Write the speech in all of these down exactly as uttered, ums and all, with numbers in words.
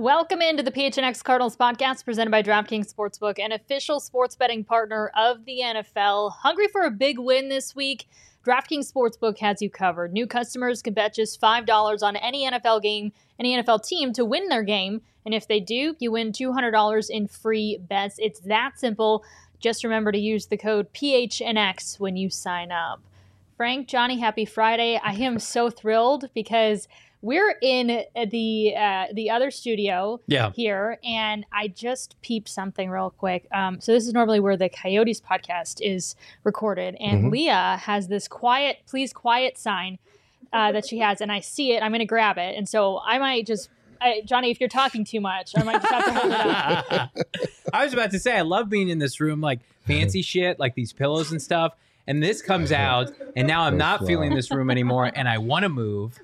Welcome into the P H N X Cardinals podcast presented by DraftKings Sportsbook, an official sports betting partner of the N F L. Hungry for a big win this week? DraftKings Sportsbook has you covered. New customers can bet just five dollars on any N F L game, any N F L team to win their game. And if they do, you win two hundred dollars in free bets. It's that simple. Just remember to use the code P H N X when you sign up. Frank, Johnny, happy Friday. I am so thrilled because we're in the uh, the other studio yeah. here, and I just peeped something real quick. Um, so this is normally where the Coyotes podcast is recorded, and mm-hmm. Leah has this quiet, please quiet sign uh, that she has, and I see it. I'm going to grab it, and so I might just, I, Johnny, if you're talking too much, I might just have to hold it up. I was about to say, I love being in this room, like fancy shit, like these pillows and stuff. And this comes out, and now I'm not feeling this room anymore, and I want to move.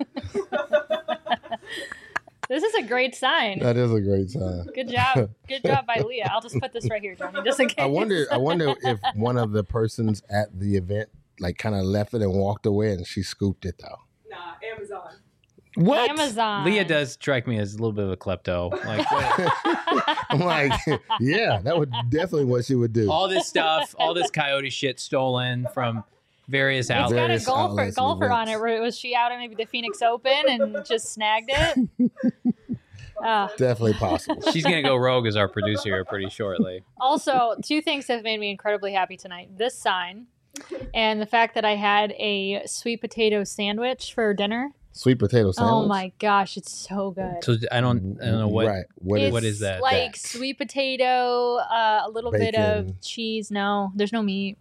This is a great sign. That is a great sign. Good job. Good job by Leah. I'll just put this right here, Johnny, just in case. I wonder, I wonder if one of the persons at the event, like, kind of left it and walked away, and she scooped it, though. Nah, Amazon. What? Amazon. Leah does strike me as a little bit of a klepto. Like, I'm like, yeah, that would definitely what she would do. All this stuff, all this Coyote shit stolen from various outlets. It's got a golfer, golfer on it. Was she out at maybe the Phoenix Open and just snagged it? Uh, definitely possible. She's going to go rogue as our producer here pretty shortly. Also, two things have made me incredibly happy tonight. This sign and the fact that I had a sweet potato sandwich for dinner. Sweet potato sandwich. Oh my gosh, it's so good. So I don't, I don't know what. Right. What is, is, what is that? Like that? Sweet potato, uh, a little Bacon. bit of cheese. No, there's no meat.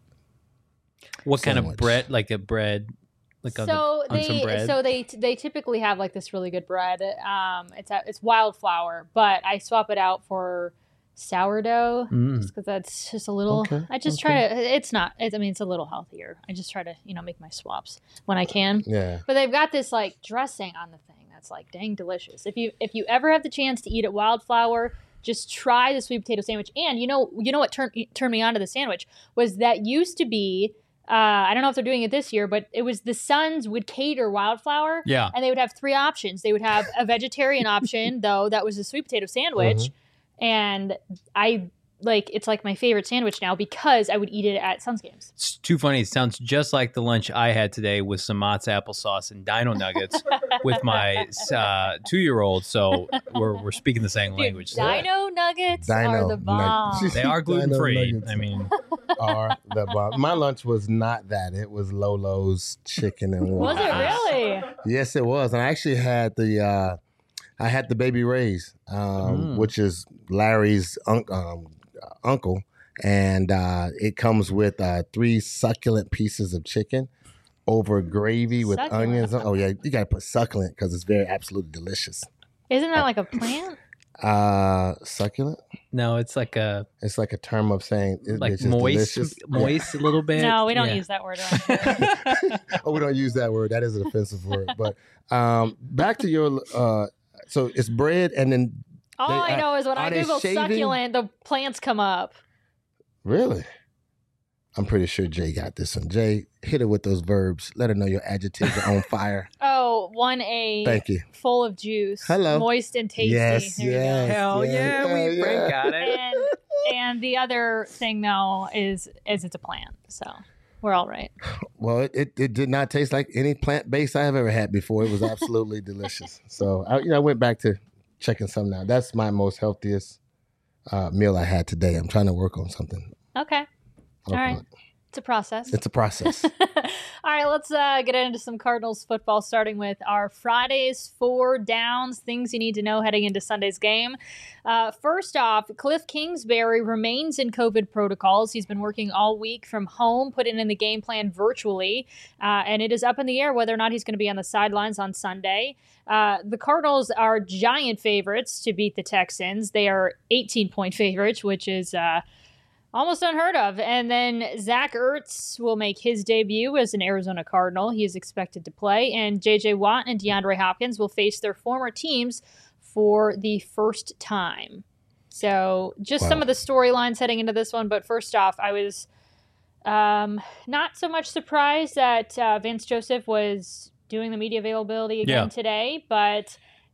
What Sandwich. kind of bread? Like a bread, like on, so the, on they, some bread. So they they typically have like this really good bread. Um, it's a, it's wildflower, but I swap it out for sourdough Mm. just because that's just a little. Okay, I just okay. try to. It's not. It's, I mean, it's a little healthier. I just try to you know make my swaps when I can. Yeah. But they've got this like dressing on the thing that's like dang delicious. If you if you ever have the chance to eat at Wildflower, just try the sweet potato sandwich. And you know you know what turned turned me on to the sandwich was that used to be. Uh, I don't know if they're doing it this year, but it was the Suns would cater Wildflower. Yeah. And they would have three options. They would have a vegetarian option, though, that was a sweet potato sandwich. Mm-hmm. And I like it's like my favorite sandwich now because I would eat it at Suns games. It's too funny. It sounds just like the lunch I had today with some Mott's applesauce and Dino Nuggets with my uh, two-year-old. So we're we're speaking the same Dude, language. Dino Nuggets Dino are the bomb. Nuggets. They are gluten-free. Dino I mean, are the bomb. My lunch was not that. It was Lolo's chicken and Was waffles. it really? Yes, it was. And I actually had the uh, I had the Baby Ray's, um, Mm. which is Larry's un- um, uncle, and uh, it comes with uh, three succulent pieces of chicken over gravy with Succulent. onions. Oh yeah, you gotta put succulent because it's very absolutely delicious. Isn't that like a plant? Uh, succulent. no, it's like a It's like a term of saying it, like it's just moist, delicious. moist a little bit. No, we don't Yeah. use that word. around here. Oh, we don't use that word. That is an offensive word. But um, back to your. Uh, so it's bread, and then All They- I know is when are I they Google shaving? succulent, the plants come up. really, I'm pretty sure Jay got this one. Jay, hit her with those verbs. Let her know your adjectives are on fire. Oh, one A. Thank you. Full of juice. Hello. Moist and tasty. Yes, There you go. yes. Hell yeah, Yeah, we yeah. Frank got it. And and the other thing though is is it's a plant, so we're all right. Well, it, it, it did not taste like any plant based I have ever had before. It was absolutely delicious. So I, you know, I went back to checking some now. That's my most healthiest uh, meal I had today. I'm trying to work on something. Okay, all Work on right, it. it's a process. It's a process. All right, let's uh, get into some Cardinals football, starting with our Friday's four downs, things you need to know heading into Sunday's game. Uh, first off, Cliff Kingsbury remains in COVID protocols. He's been working all week from home, putting in the game plan virtually, uh, and it is up in the air whether or not he's going to be on the sidelines on Sunday. Uh, the Cardinals are giant favorites to beat the Texans. They are eighteen-point favorites, which is... Uh, Almost unheard of. And then Zach Ertz will make his debut as an Arizona Cardinal. He is expected to play. And J J. Watt and DeAndre Hopkins will face their former teams for the first time. So just Wow. some of the storylines heading into this one. But first off, I was um, not so much surprised that uh, Vance Joseph was doing the media availability again Yeah. today. But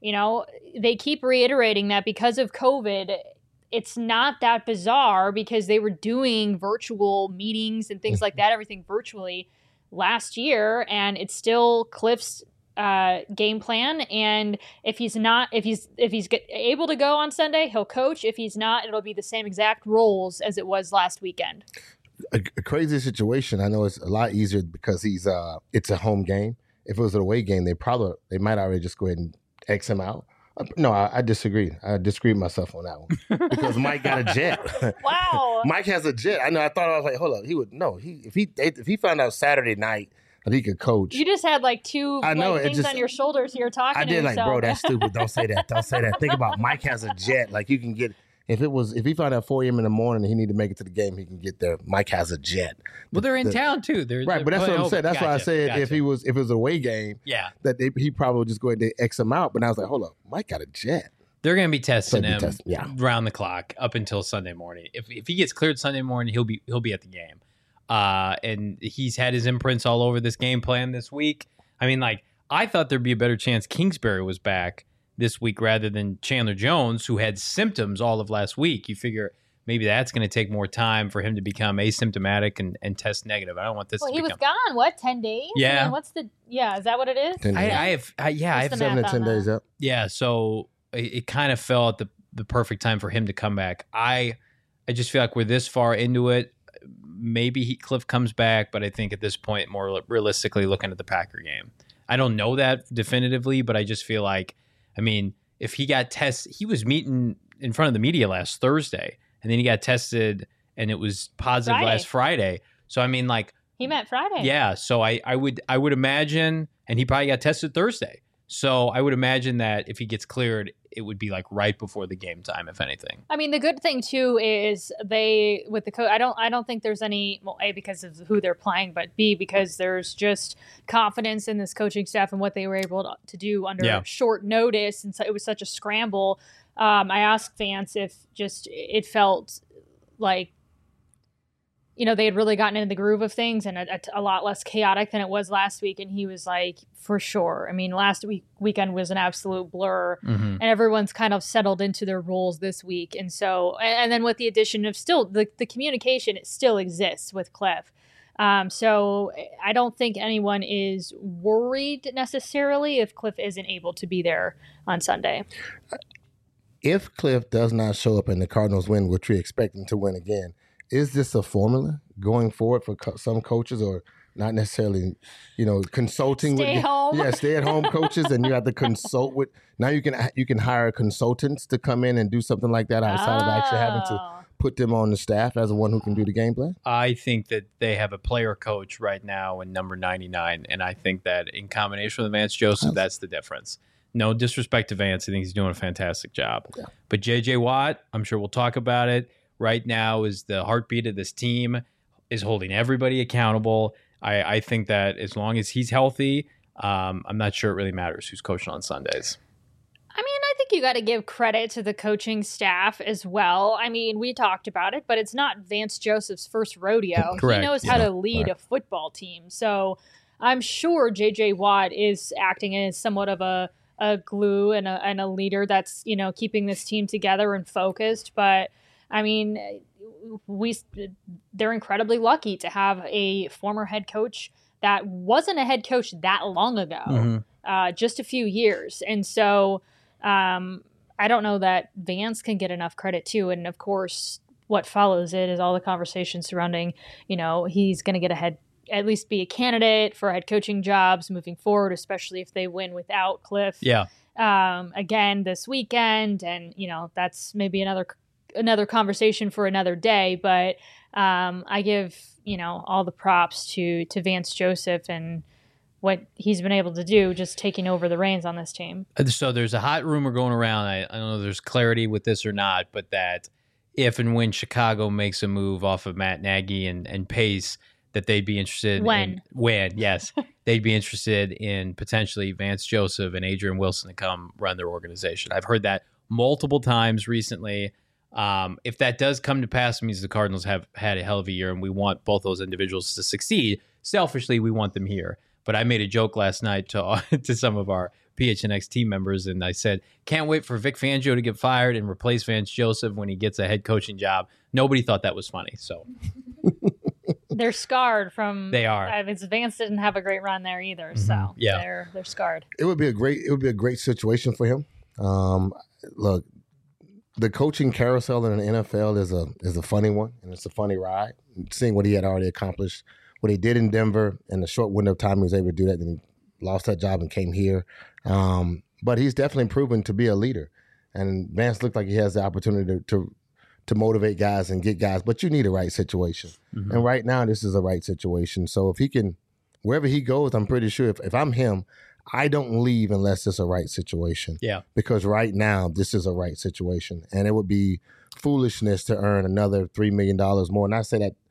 you know, they keep reiterating that because of COVID, it's not that bizarre because they were doing virtual meetings and things like that, everything virtually last year, and it's still Cliff's uh, game plan. And if he's not, if he's if he's get, able to go on Sunday, he'll coach. If he's not, it'll be the same exact roles as it was last weekend. A, a crazy situation. I know it's a lot easier because he's uh, it's a home game. If it was an away game, they probably they might already just go ahead and X him out. No, I, I disagree. I disagree with myself on that one because Mike got a jet. Wow, Mike has a jet. I know. I thought I was like, hold up. He would no. He if he if he found out Saturday night that he could coach. You just had like two I know, like, it things just- on your shoulders here talking. I to did like, yourself. bro, that's stupid. Don't say that. Don't say that. Think about Mike has a jet. Like you can get if it was if he found out four a.m. in the morning and he needed to make it to the game, he can get there. Mike has a jet. Well, they're in The- town too. They're, Right, they're but that's what I'm oh, saying. That's why I gotcha, said gotcha. if he was if it was a away game, yeah, that they, he probably would just go ahead and X him out. But I was like, hold up, Mike got a jet. they're going to be testing So be him testing, yeah. round the clock up until Sunday morning. If if he gets cleared Sunday morning, he'll be he'll be at the game. Uh, and he's had his imprints all over this game plan this week. I mean, like I thought there'd be a better chance Kingsbury was back this week rather than Chandler Jones, who had symptoms all of last week. You figure maybe that's going to take more time for him to become asymptomatic and, and test negative. I don't want this Well, to he become. was gone. What, ten days? I Yeah. mean, what's the? Yeah, is that what it is? Ten I, days. I have, I, yeah, I What's have the Seven to math ten on that? days up. Yeah, so it, it kind of fell at the the perfect time for him to come back. I I just feel like we're this far into it. Maybe he, Cliff comes back, but I think at this point, more realistically, looking at the Packer game, I don't know that definitively, but I just feel like, I mean, if he got tested, he was meeting in front of the media last Thursday, and then he got tested, and it was positive Friday. last Friday. So I mean, like, He meant Friday. yeah, so I, I would I would imagine, and he probably got tested Thursday. So I would imagine that if he gets cleared, it would be like right before the game time, if anything. I mean, the good thing too is they with the coach. I don't. I don't think there's any. Well, A, because of who they're playing, but B, because there's just confidence in this coaching staff and what they were able to, to do under Yeah. short notice, and so it was such a scramble. Um, I asked Vance if just it felt like, you know, they had really gotten into the groove of things and a, a lot less chaotic than it was last week. And he was like, for sure. I mean, last week weekend was an absolute blur, Mm-hmm. and everyone's kind of settled into their roles this week. And so, and, and then with the addition of still the, the communication, it still exists with Cliff. Um, so I don't think anyone is worried necessarily if Cliff isn't able to be there on Sunday. If Cliff does not show up and the Cardinals win, which we expect them to win again, is this a formula going forward for co- some coaches, or not necessarily, you know, consulting Stay with home. yeah, stay at home coaches, and you have to consult with. Now you can you can hire consultants to come in and do something like that outside of actually having to Oh. put them on the staff as the one who can do the game plan. I think that they have a player coach right now in number ninety-nine, and I think that in combination with Vance Joseph, that's the difference. No disrespect to Vance, I think he's doing a fantastic job. Yeah. But J J Watt, I'm sure we'll talk about it, right now is the heartbeat of this team, is holding everybody accountable. I, I think that as long as he's healthy, um, I'm not sure it really matters who's coaching on Sundays. I mean, I think you got to give credit to the coaching staff as well. I mean, we talked about it, but it's not Vance Joseph's first rodeo. Correct, He knows how yeah, to lead right. a football team. So I'm sure J J Watt is acting as somewhat of a, a glue and a, and a leader that's, you know, keeping this team together and focused. But I mean, we they're incredibly lucky to have a former head coach that wasn't a head coach that long ago, Mm-hmm. uh, just a few years. And so um, I don't know that Vance can get enough credit too. And of course, what follows it is all the conversation surrounding, you know, he's going to get a head, at least be a candidate for head coaching jobs moving forward, especially if they win without Cliff. Yeah. Um, again this weekend, and you know that's maybe another another conversation for another day. But um, I give you know all the props to to Vance Joseph and what he's been able to do, just taking over the reins on this team. So there's a hot rumor going around. I, I don't know if there's clarity with this or not, but that if and when Chicago makes a move off of Matt Nagy and, and Pace, that they'd be interested When. in when, yes, they'd be interested in potentially Vance Joseph and Adrian Wilson to come run their organization. I've heard that multiple times recently. Um, if that does come to pass, it means the Cardinals have had a hell of a year, and we want both those individuals to succeed. Selfishly, we want them here. But I made a joke last night to to some of our P H N X team members, and I said, can't wait for Vic Fangio to get fired and replace Vance Joseph when he gets a head coaching job. Nobody thought that was funny. So they're scarred from. They are. Uh, Vance didn't have a great run there either, so Mm-hmm. yeah. they're they're scarred. It would be a great. It would be a great situation for him. Um, look, the coaching carousel in the N F L is a is a funny one, and it's a funny ride. Seeing what he had already accomplished, what he did in Denver, in the short window of time he was able to do that, then he lost that job and came here. Um, but he's definitely proven to be a leader, and Vance looked like he has the opportunity to to, to motivate guys and get guys. But you need a right situation, mm-hmm. and right now this is a right situation. So if he can, wherever he goes, I'm pretty sure if, if I'm him, I don't leave unless it's a right situation. Yeah. Because right now, this is a right situation. And it would be foolishness to earn another three million dollars more. And I say that,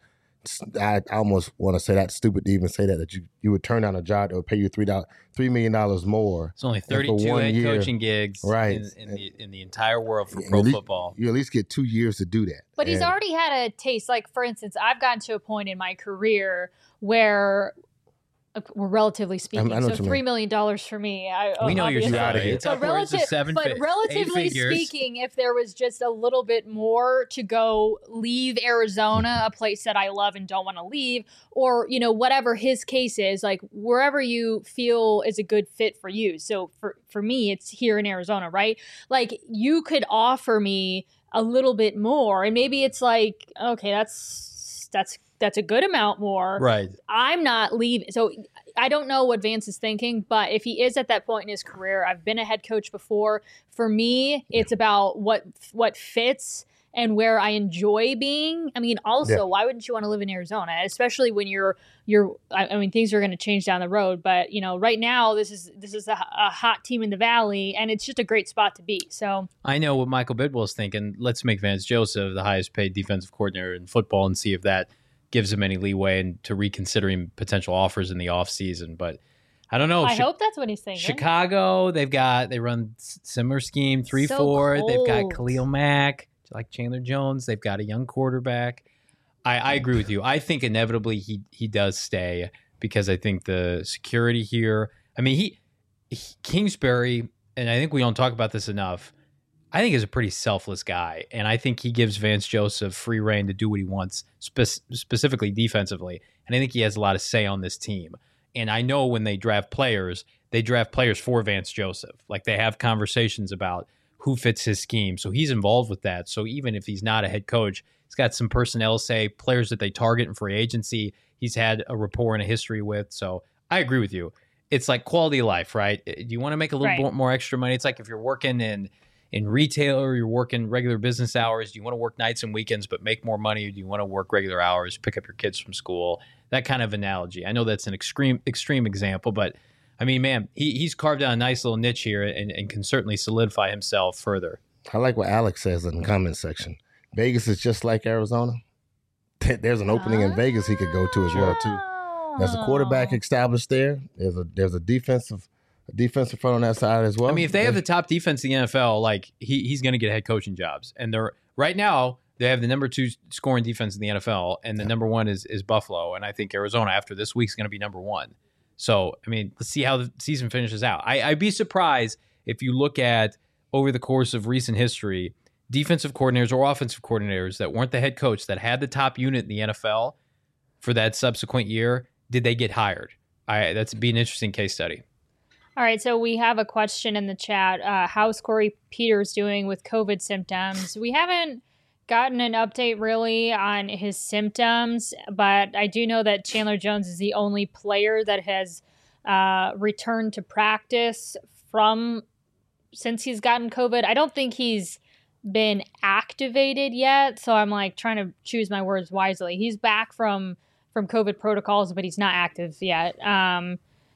I almost want to say that stupid to even say that, that you, you would turn down a job that would pay you three million dollars more. It's only thirty-two head year, coaching gigs right. in, in, the, in the entire world for pro least, football. You at least get two years to do that. But and, he's already had a taste. Like, for instance, I've gotten to a point in my career where we're relatively speaking, I, I so three million dollars for me. I, we know you're out of here. It's upwards of seven, but relatively speaking, if there was just a little bit more to go leave Arizona, a place that I love and don't want to leave, or you know whatever his case is, like wherever you feel is a good fit for you. So for for me, it's here in Arizona, right? Like you could offer me a little bit more, and maybe it's like, okay, that's that's. That's a good amount more. Right. I'm not leaving. So I don't know what Vance is thinking, but if he is at that point in his career, I've been a head coach before. For me, it's about what what fits and where I enjoy being. I mean, also, yeah. why wouldn't you want to live in Arizona? Especially when you're you're. I mean, things are going to change down the road, but you know, right now this is this is a, a hot team in the valley, and it's just a great spot to be. So I know what Michael Bidwell's thinking. Let's make Vance Joseph the highest paid defensive coordinator in football and see if that gives him any leeway and to reconsidering potential offers in the offseason. But I don't know. I Chi- hope that's what he's thinking. Chicago, they've got, they run similar scheme, three so four. Cold. They've got Khalil Mack, like Chandler Jones. They've got a young quarterback. I, I agree with you. I think inevitably he he does stay because I think the security here, I mean, he, he Kingsbury, and I think we don't talk about this enough, I think is a pretty selfless guy, and I think he gives Vance Joseph free reign to do what he wants, spe- specifically defensively, and I think he has a lot of say on this team. And I know when they draft players, they draft players for Vance Joseph. Like they have conversations about who fits his scheme, so he's involved with that. So even if he's not a head coach, he's got some personnel say, players that they target in free agency, he's had a rapport and a history with. So I agree with you. It's like quality of life, right? Do you want to make a little right. bit more extra money? It's like if you're working in in retail or you're working regular business hours, do you want to work nights and weekends but make more money, or do you want to work regular hours, pick up your kids from school? That kind of analogy. I know that's an extreme extreme example, but I mean, man, he, he's carved out a nice little niche here and, and can certainly solidify himself further. I like what Alex says in the comment section. Vegas is just like Arizona. There's an opening in Vegas he could go to as well, too. There's a quarterback established there. There's a there's a defensive a defensive front on that side as well. I mean, if they have the top defense in the N F L, like he he's going to get head coaching jobs. And they're right now they have the number two scoring defense in the N F L, and the yeah. number one is is Buffalo. And I think Arizona after this week's going to be number one. So I mean, let's see how the season finishes out. I, I'd be surprised if you look at over the course of recent history, defensive coordinators or offensive coordinators that weren't the head coach that had the top unit in the N F L for that subsequent year, did they get hired? I that's be an interesting case study. All right, so we have a question in the chat. Uh, how's Corey Peters doing with COVID symptoms? We haven't gotten an update really on his symptoms, but I do know that Chandler Jones is the only player that has uh, returned to practice from since he's gotten COVID. I don't think he's been activated yet, so I'm like trying to choose my words wisely. He's back from from COVID protocols, but he's not active yet. Um,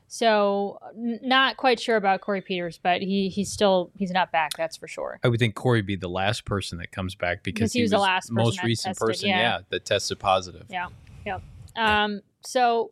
So n- not quite sure about Corey Peters, but he he's still he's not back. That's for sure. I would think Corey would be the last person that comes back because he, he was, was the last most person recent tested, person, yeah. yeah, that tested positive. Yeah, yeah. Um, so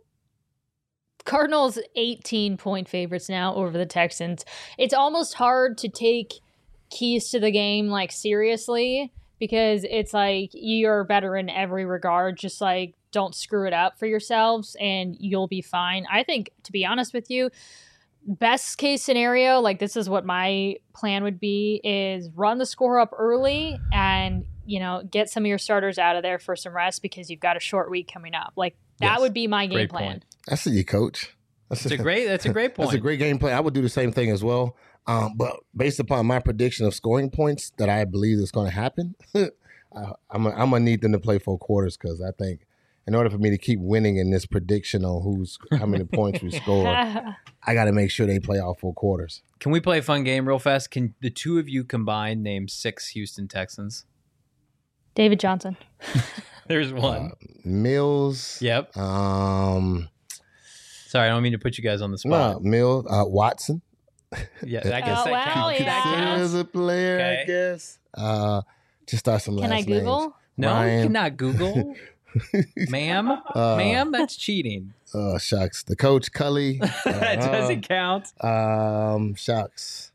Cardinals eighteen point favorites now over the Texans. It's almost hard to take keys to the game like seriously because it's like you're better in every regard. Just like don't screw it up for yourselves and you'll be fine. I think, to be honest with you, best case scenario, like this is what my plan would be, is run the score up early and, you know, get some of your starters out of there for some rest because you've got a short week coming up. Like that Yes. would be my game Great plan. point. That's you, coach. That's That's a great. That's a great point. That's a great game plan. I would do the same thing as well. Um, but based upon my prediction of scoring points that I believe is going to happen, I, I'm I'm gonna need them to play four quarters because I think in order for me to keep winning in this prediction on who's how many points we score, I got to make sure they play all four quarters. Can we play a fun game real fast? Can the two of you combined name six Houston Texans? David Johnson. There's one. Uh, Mills. Yep. Um. Sorry, I don't mean to put you guys on the No, spot. Mills. Uh, Watson. Yeah, I guess Oh, that well, counts. yeah. That Considered counts. as a player, I Okay. guess. Uh, just start some Can last I Google? names. No, Ryan. you cannot Google. Ma'am? Uh, Ma'am, that's cheating. Oh, shucks. The coach, Cully. that doesn't count. Um, shucks.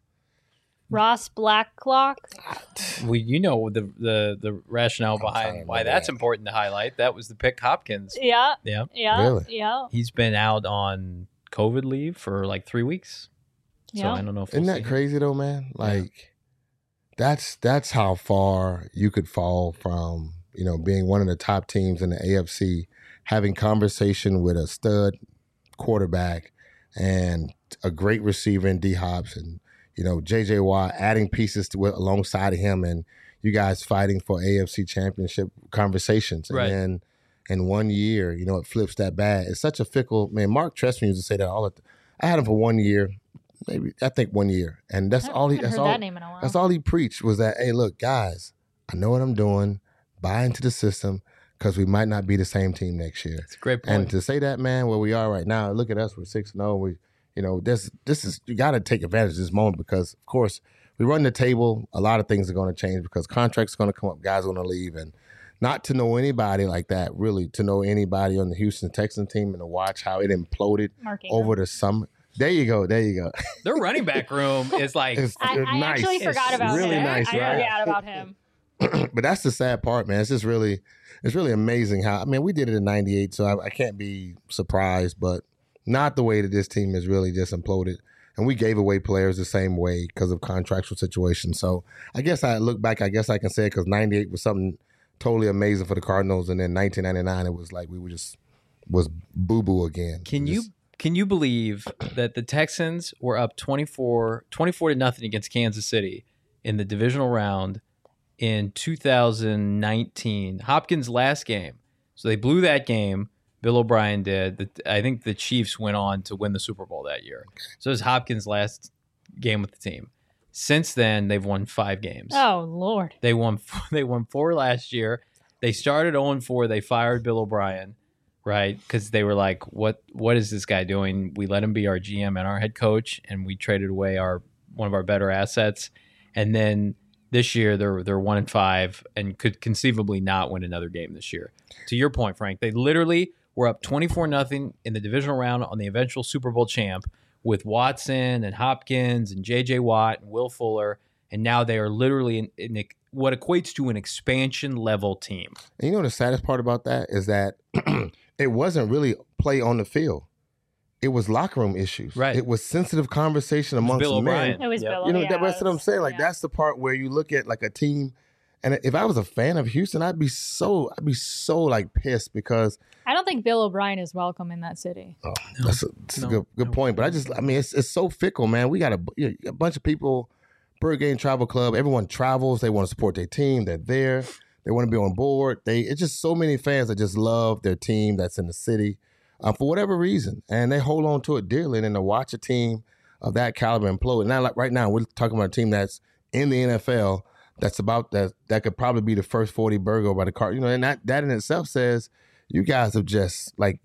Ross Blacklock. Well, you know the the the rationale I'm trying behind to why remember that's that. important to highlight. That was the pick Hopkins. Yeah. Yeah. Yeah. Really? Yeah. He's been out on COVID leave for like three weeks. So Yeah. I don't know if Isn't we'll that see him. crazy though, man? Like, that's that's how far you could fall from, you know, being one of the top teams in the A F C, having conversation with a stud quarterback and a great receiver in D Hops and, you know, J J Watt adding pieces to it alongside of him and you guys fighting for A F C championship conversations. And Right. then in one year, you know, it flips that bad. It's such a fickle, man, Mark Trestman used to say that all the time. I had him for one year, maybe, I think one year. And that's I all he, haven't that's heard all, that name in a while. that's all he preached was that, hey, look, guys, I know what I'm doing. Buy into the system because we might not be the same team next year. It's a great point. And to say that, man, where we are right now, look at us, we're six and zero. We, you know, this this is you got to take advantage of this moment because, of course, we run the table. A lot of things are going to change because contracts are going to come up, guys are going to leave, and not to know anybody like that, really, to know anybody on the Houston Texans team and to watch how it imploded Mark Ingram. over the summer. There you go. There you go. Their running back room is like It's- I, It's I nice. actually It's forgot about really him. nice, I right? forgot about him. But that's the sad part, man. It's just really, it's really amazing how. I mean, we did it in ninety-eight, so I, I can't be surprised, but not the way that this team has really just imploded. And we gave away players the same way because of contractual situations. So I guess I look back. I guess I can say it because ninety-eight was something totally amazing for the Cardinals, and then nineteen ninety-nine it was like we were just was boo boo again. Can Just- you can you believe that the Texans were up twenty-four, twenty-four to nothing against Kansas City in the divisional round in two thousand nineteen? Hopkins' last game. So they blew that game. Bill O'Brien did. The, I think the Chiefs went on to win the Super Bowl that year. So it was Hopkins' last game with the team. Since then, they've won five games. Oh Lord. They won. They won four last year. They started zero and four. They fired Bill O'Brien, right? Because they were like, "What? What is this guy doing? We let him be our G M and our head coach, and we traded away our one of our better assets." And then this year, they're they're one and five, and could conceivably not win another game this year. To your point, Frank, they literally were up twenty-four nothing in the divisional round on the eventual Super Bowl champ with Watson and Hopkins and J J Watt and Will Fuller, and now they are literally in, in what equates to an expansion level team. And you know the saddest part about that is that it wasn't really play on the field. It was locker room issues. Right. It was sensitive conversation It was amongst Bill men. O'Brien. It was Yep. Bill. You know, yeah, that, that's it what I'm was- saying. Like yeah. that's the part where you look at like a team, and if I was a fan of Houston, I'd be so I'd be so like pissed because I don't think Bill O'Brien is welcome in that city. oh, that's a, that's No, a good good no. point. But I just I mean it's it's so fickle, man. We got a, you know, a bunch of people, Bird Game Travel Club. Everyone travels. They want to support their team. They're there. They want to be on board. They it's just so many fans that just love their team that's in the city. Um, for whatever reason, and they hold on to it dearly. And then to watch a team of that caliber implode. Now, like right now, we're talking about a team that's in the N F L. That's about that. That could probably be the first forty burger by the car. You know, and that that in itself says you guys have just like.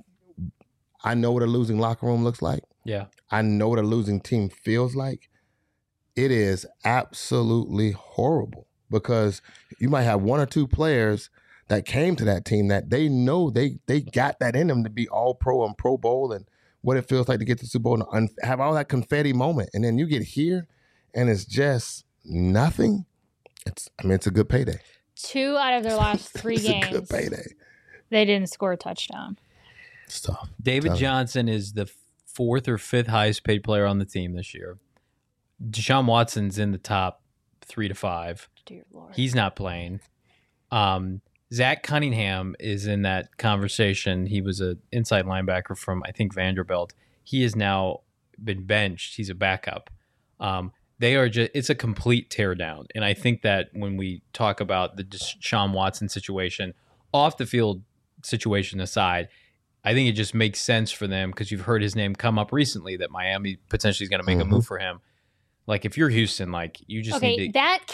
I know what a losing locker room looks like. Yeah. I know what a losing team feels like. It is absolutely horrible because you might have one or two players that came to that team that they know they they got that in them to be all pro and Pro Bowl and what it feels like to get to the Super Bowl and un- have all that confetti moment. And then you get here and it's just nothing. It's I mean, it's a good payday. Two out of their last three it's games, a good payday. they didn't score a touchdown. It's tough. David Tell me. Johnson is the fourth or fifth highest paid player on the team this year. Deshaun Watson's in the top three to five. Dear Lord. He's not playing. Um, Zach Cunningham is in that conversation. He was an inside linebacker from, I think, Vanderbilt. He has now been benched. He's a backup. Um, they are just, it's a complete teardown. And I think that when we talk about the Deshaun Watson situation, off the field situation aside, I think it just makes sense for them because you've heard his name come up recently that Miami potentially is going to make mm-hmm. a move for him. Like, if you're Houston, like, you just okay, need to... that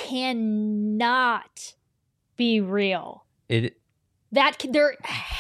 cannot be real. It... That there,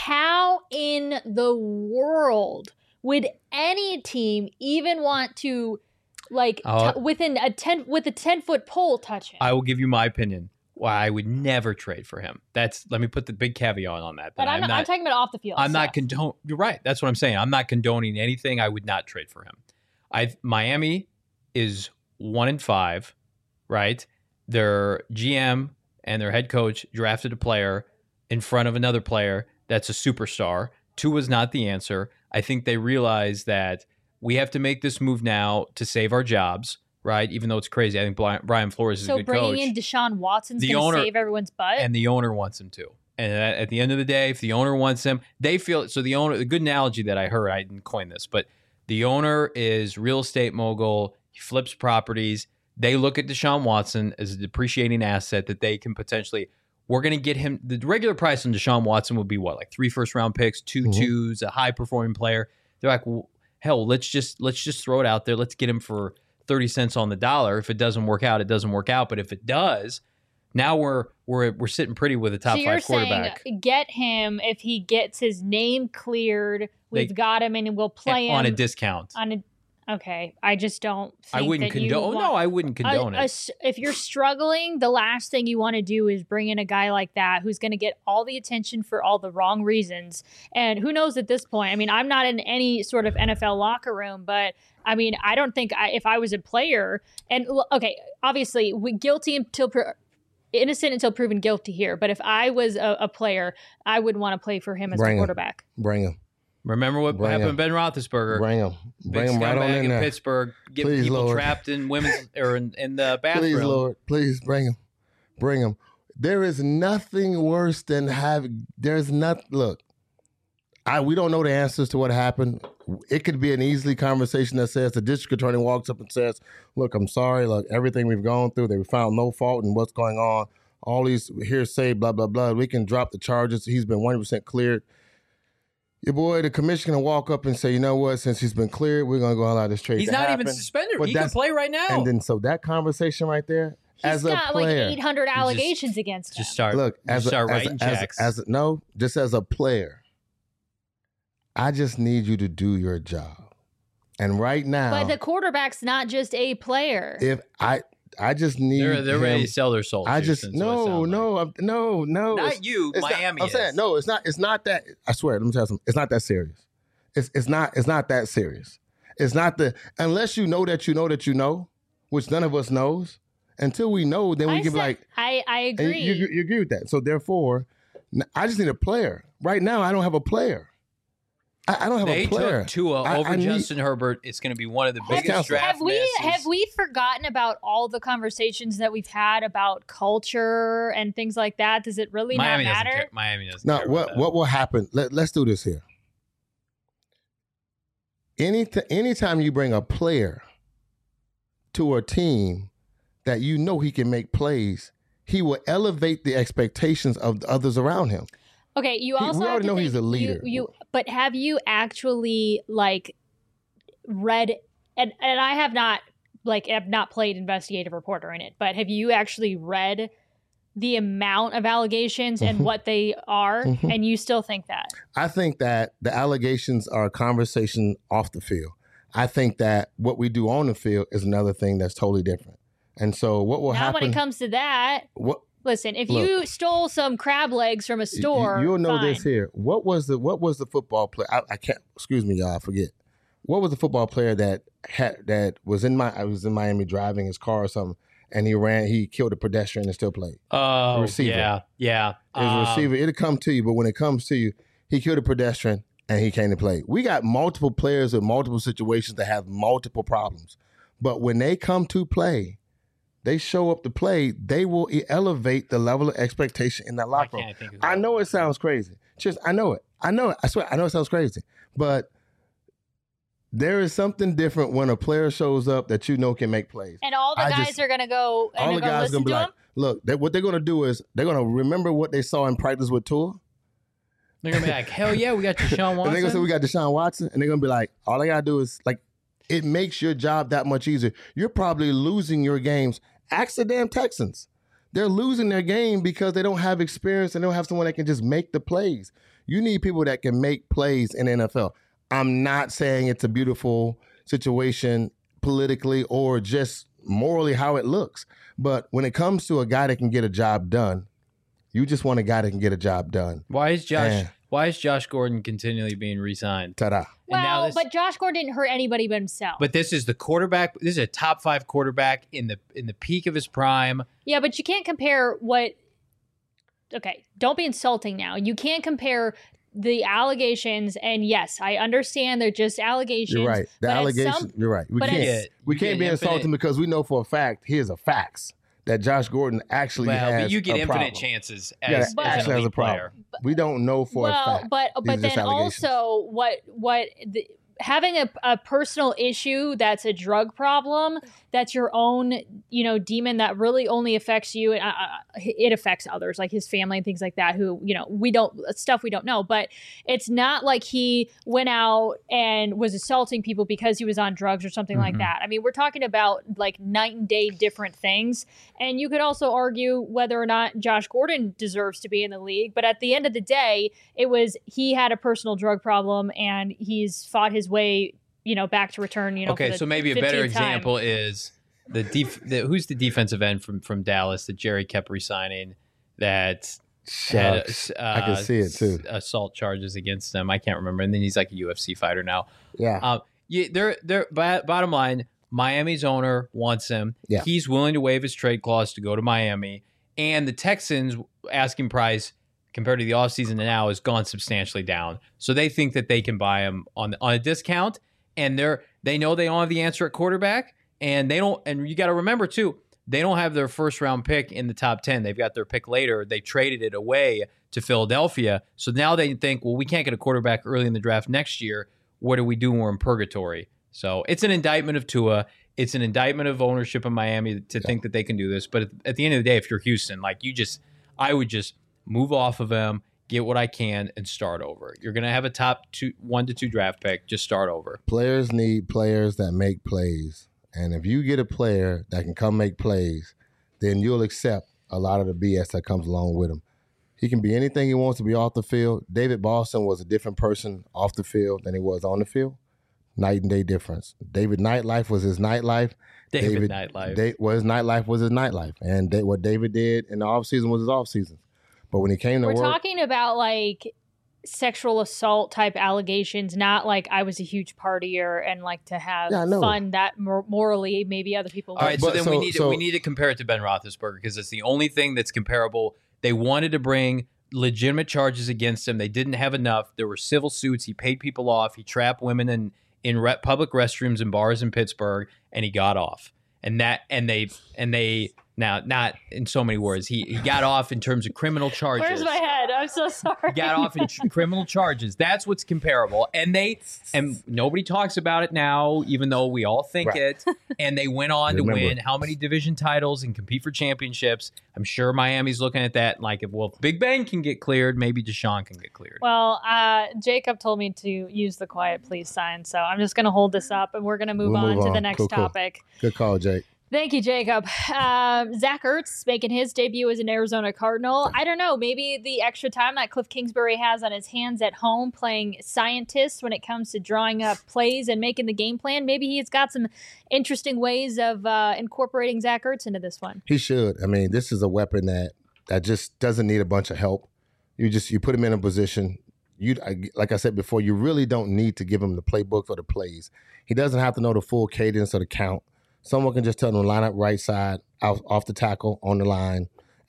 how in the world would any team even want to, like, uh, t- within a ten with a ten foot pole touch him? I will give you my opinion. Why I would never trade for him. That's let me put the big caveat on that. But I'm, I'm, not, I'm talking about off the field. I'm stuff. not condone. You're right. That's what I'm saying. I'm not condoning anything. I would not trade for him. I Miami is one and five, right? Their G M and their head coach drafted a player in front of another player that's a superstar. Two was not the answer. I think they realized that we have to make this move now to save our jobs, right? Even though it's crazy. I think Brian Flores is so a good coach. So bringing in Deshaun Watson's going to save everyone's butt? And the owner wants him to. And at, at the end of the day, if the owner wants him, they feel it. So the owner, the good analogy that I heard, I didn't coin this, but the owner is real estate mogul. He flips properties. They look at Deshaun Watson as a depreciating asset that they can potentially, we're going to get him. The regular price on Deshaun Watson would be what, like three first round picks, two mm-hmm. twos, a high performing player. They're like, well, hell, let's just, let's just throw it out there. Let's get him for thirty cents on the dollar. If it doesn't work out, it doesn't work out. But if it does, now we're, we're, we're sitting pretty with a top so five quarterback. Saying get him if he gets his name cleared. We've they, got him and we'll play him on a discount. On a Okay, I just don't think I wouldn't that condone. You want, no, I wouldn't condone a, it. A, if you're struggling, the last thing you want to do is bring in a guy like that who's going to get all the attention for all the wrong reasons. And who knows at this point? I mean, I'm not in any sort of N F L locker room, but I mean, I don't think I, if I was a player, and okay, obviously, we guilty until pro- innocent until proven guilty here. But if I was a, a player, I would want to play for him as bring a quarterback. Him. Bring him. Remember what Bring happened him. to Ben Roethlisberger? Bring him. Bring Big him right on in, in there. Pittsburgh, getting Please, people Lord. trapped in women's or in, in the bathroom. Please, Lord. Please bring him. Bring him. There is nothing worse than having. There's not. Look, I we don't know the answers to what happened. It could be an easy conversation that says the district attorney walks up and says, "Look, I'm sorry. Look, everything we've gone through, they found no fault in what's going on. All these hearsay, blah blah blah. We can drop the charges. He's been one hundred percent cleared." Your boy, the commissioner, can walk up and say, you know what, since he's been cleared, we're going to go allow this trade He's to not happen. even suspended. But he can play right now. And then, so that conversation right there, He's as a got player. like eight hundred allegations just, against him. Just start, look, as, just start a, writing as, checks. As, as, no, just as a player, I just need you to do your job. And right now. But the quarterback's not just a player. If I... I just need. They're, they're him. ready to sell their souls. I just no, no, like. I'm, no, no. Not you, Miami. Not, I'm is. saying no. It's not. It's not that. I swear. Let me tell you something. It's not that serious. It's it's not. It's not that serious. It's not the unless you know that you know that you know, which none of us knows. Until we know, then we I can said, be like. I I agree. You, you, you agree with that? So therefore, I just need a player. Right now, I don't have a player. I, I don't have they a player. Took Tua I, over I Justin need, Herbert. It's going to be one of the biggest have, draft have we misses. have we forgotten about all the conversations that we've had about culture and things like that? Does it really Miami not doesn't matter? care. Miami doesn't no, care. what about what will happen? Let, let's do this here. Any t- anytime you bring a player to a team that you know he can make plays, he will elevate the expectations of the others around him. Okay, you He- also we have already to know think he's a leader. You, you, but have you actually like read? And and I have not like have not played investigative reporter in it, but have you actually read the amount of allegations and Mhm. what they are? Mhm. And you still think that? I think that the allegations are a conversation off the field. I think that what we do on the field is another thing that's totally different. And so what will now, happen? when it comes to that, what listen, if Look. you stole some crab legs from a store, You, you'll know fine. this here. What was the what was the football player? I, I can't. Excuse me, y'all. I forget. What was the football player that had that was in my? I was in Miami driving his car or something, and he ran. He killed a pedestrian and still played. Oh, receiver. yeah, yeah. His Um, receiver. It'll come to you, but when it comes to you, he killed a pedestrian. and he came to play. We got multiple players with multiple situations that have multiple problems. But when they come to play, they show up to play, they will elevate the level of expectation in that locker room. I know it sounds crazy. Just, I know it. I know it. I swear, I know it sounds crazy. But there is something different when a player shows up that you know can make plays. And all the I guys just, are going to go and all the go guys listen gonna be to like, him? look, they, what they're going to do is they're going to remember what they saw in practice with Tua. They're going to be like, hell yeah, we got Deshaun Watson. And they're going to say, we got Deshaun Watson. And they're going to be like, all I got to do is, like, it makes your job that much easier. You're probably losing your games. Ask the damn Texans. They're losing their game because they don't have experience and they don't have someone that can just make the plays. You need people that can make plays in the N F L. I'm not saying it's a beautiful situation politically or just morally how it looks. But when it comes to a guy that can get a job done, you just want a guy that can get a job done. Why is Josh And, why is Josh Gordon continually being re-signed? ta-da. And now Well, this- but Josh Gordon didn't hurt anybody but himself. But this is the quarterback. This is a top five quarterback in the in the peak of his prime. Yeah, but you can't compare what. Okay, don't be insulting now. You can't compare the allegations, and yes, I understand they're just allegations. You're right. The but at allegation, some- you're right. We but can't, it's- we You can't get be infinite- insulting because we know for a fact, here's a facts, that Josh Gordon actually Well, has but you get a infinite problem. chances Yeah, as, But- as an actually has elite a problem. player. We don't know for well, a fact. but These but are just then allegations. also what what the, having a, a personal issue that's a drug problem, that's your own, you know, demon that really only affects you. And uh, it affects others, like his family and things like that, who, you know, we don't, stuff we don't know. But it's not like he went out and was assaulting people because he was on drugs or something like Mhm. that. I mean, we're talking about like night and day different things. And you could also argue whether or not Josh Gordon deserves to be in the league. But at the end of the day, it was he had a personal drug problem and he's fought his way, you know, back to return. You know, Okay, for the so maybe a better fifteenth time. example is the, def- the who's the defensive end from from Dallas that Jerry kept resigning that had Shucks. uh, I can see it too. s- assault charges against him. I can't remember. And then he's like a U F C fighter now. Yeah. Um, yeah, they're they're b- bottom line. Miami's owner wants him. Yeah. He's willing to waive his trade clause to go to Miami, and the Texans' asking price compared to the offseason to now has gone substantially down. So they think that they can buy him on on a discount, and they're they know they don't have the answer at quarterback, and they don't. And you got to remember too, they don't have their first round pick in the top ten. They've got their pick later. They traded it away to Philadelphia. So now they think, well, we can't get a quarterback early in the draft next year. What do we do when we're in purgatory? So it's an indictment of Tua. It's an indictment of ownership in Miami to Yeah. think that they can do this. But at, at the end of the day, if you're Houston, like you just, I would just move off of him, get what I can, and start over. You're going to have a top two, one to two draft pick. Just start over. Players need players that make plays. And if you get a player that can come make plays, then you'll accept a lot of the B S that comes along with him. He can be anything he wants to be off the field. David Boston was a different person off the field than he was on the field. Night and day difference. David nightlife was his nightlife. David, Nightlife. Da- well, his nightlife was his nightlife. And da- what David did in the offseason was his offseason. But when he came to We're work, talking about like sexual assault type allegations, not like I was a huge partier and like to have Yeah, I know. fun that mor- morally maybe other people All right, so But then so- we need to, so- we need to compare it to Ben Roethlisberger because it's the only thing that's comparable. They wanted to bring legitimate charges against him. They didn't have enough. There were civil suits. He paid people off. He trapped women in in re- public restrooms and bars in Pittsburgh, and he got off. And that and they and they now not in so many words. He he got off in terms of criminal charges. Where's my head? I'm so sorry. Got off in tr- criminal charges. That's what's comparable. And they and nobody talks about it now, even though we all think Right. it. And they went on to Remember. win how many division titles and compete for championships. I'm sure Miami's looking at that like, if well, if Big Ben can get cleared, maybe Deshaun can get cleared. Well, uh, Jacob told me to use the quiet please sign, so I'm just going to hold this up and we're going to move We'll on move to the on. next Cool, cool. topic. good call, Jake. Thank you, Jacob. Um, Zach Ertz making his debut as an Arizona Cardinal. I don't know, maybe the extra time that Cliff Kingsbury has on his hands at home playing scientist when it comes to drawing up plays and making the game plan, maybe he's got some interesting ways of uh, incorporating Zach Ertz into this one. He should. I mean, this is a weapon that that just doesn't need a bunch of help. You just you put him in a position. You I- like I said before, you really don't need to give him the playbook or the plays. He doesn't have to know the full cadence or the count. Someone can just tell him to line up right side, out, off the tackle, on the line,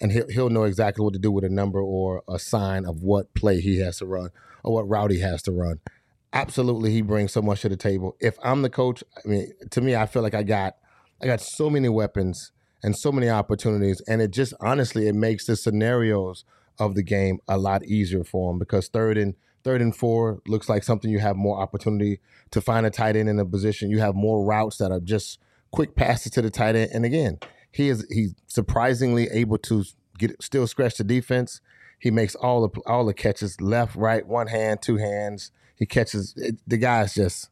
and he'll, he'll know exactly what to do with a number or a sign of what play he has to run or what route he has to run. Absolutely, he brings so much to the table. If I'm the coach, I mean, to me, I feel like I got I got so many weapons and so many opportunities, and it just honestly it makes the scenarios of the game a lot easier for him because third and third and four looks like something you have more opportunity to find a tight end in a position. You have more routes that are just quick passes to the tight end, and again, he is he's surprisingly able to get still scratch the defense. He makes all the all the catches left, right, one hand, two hands. He catches it, the guy's just.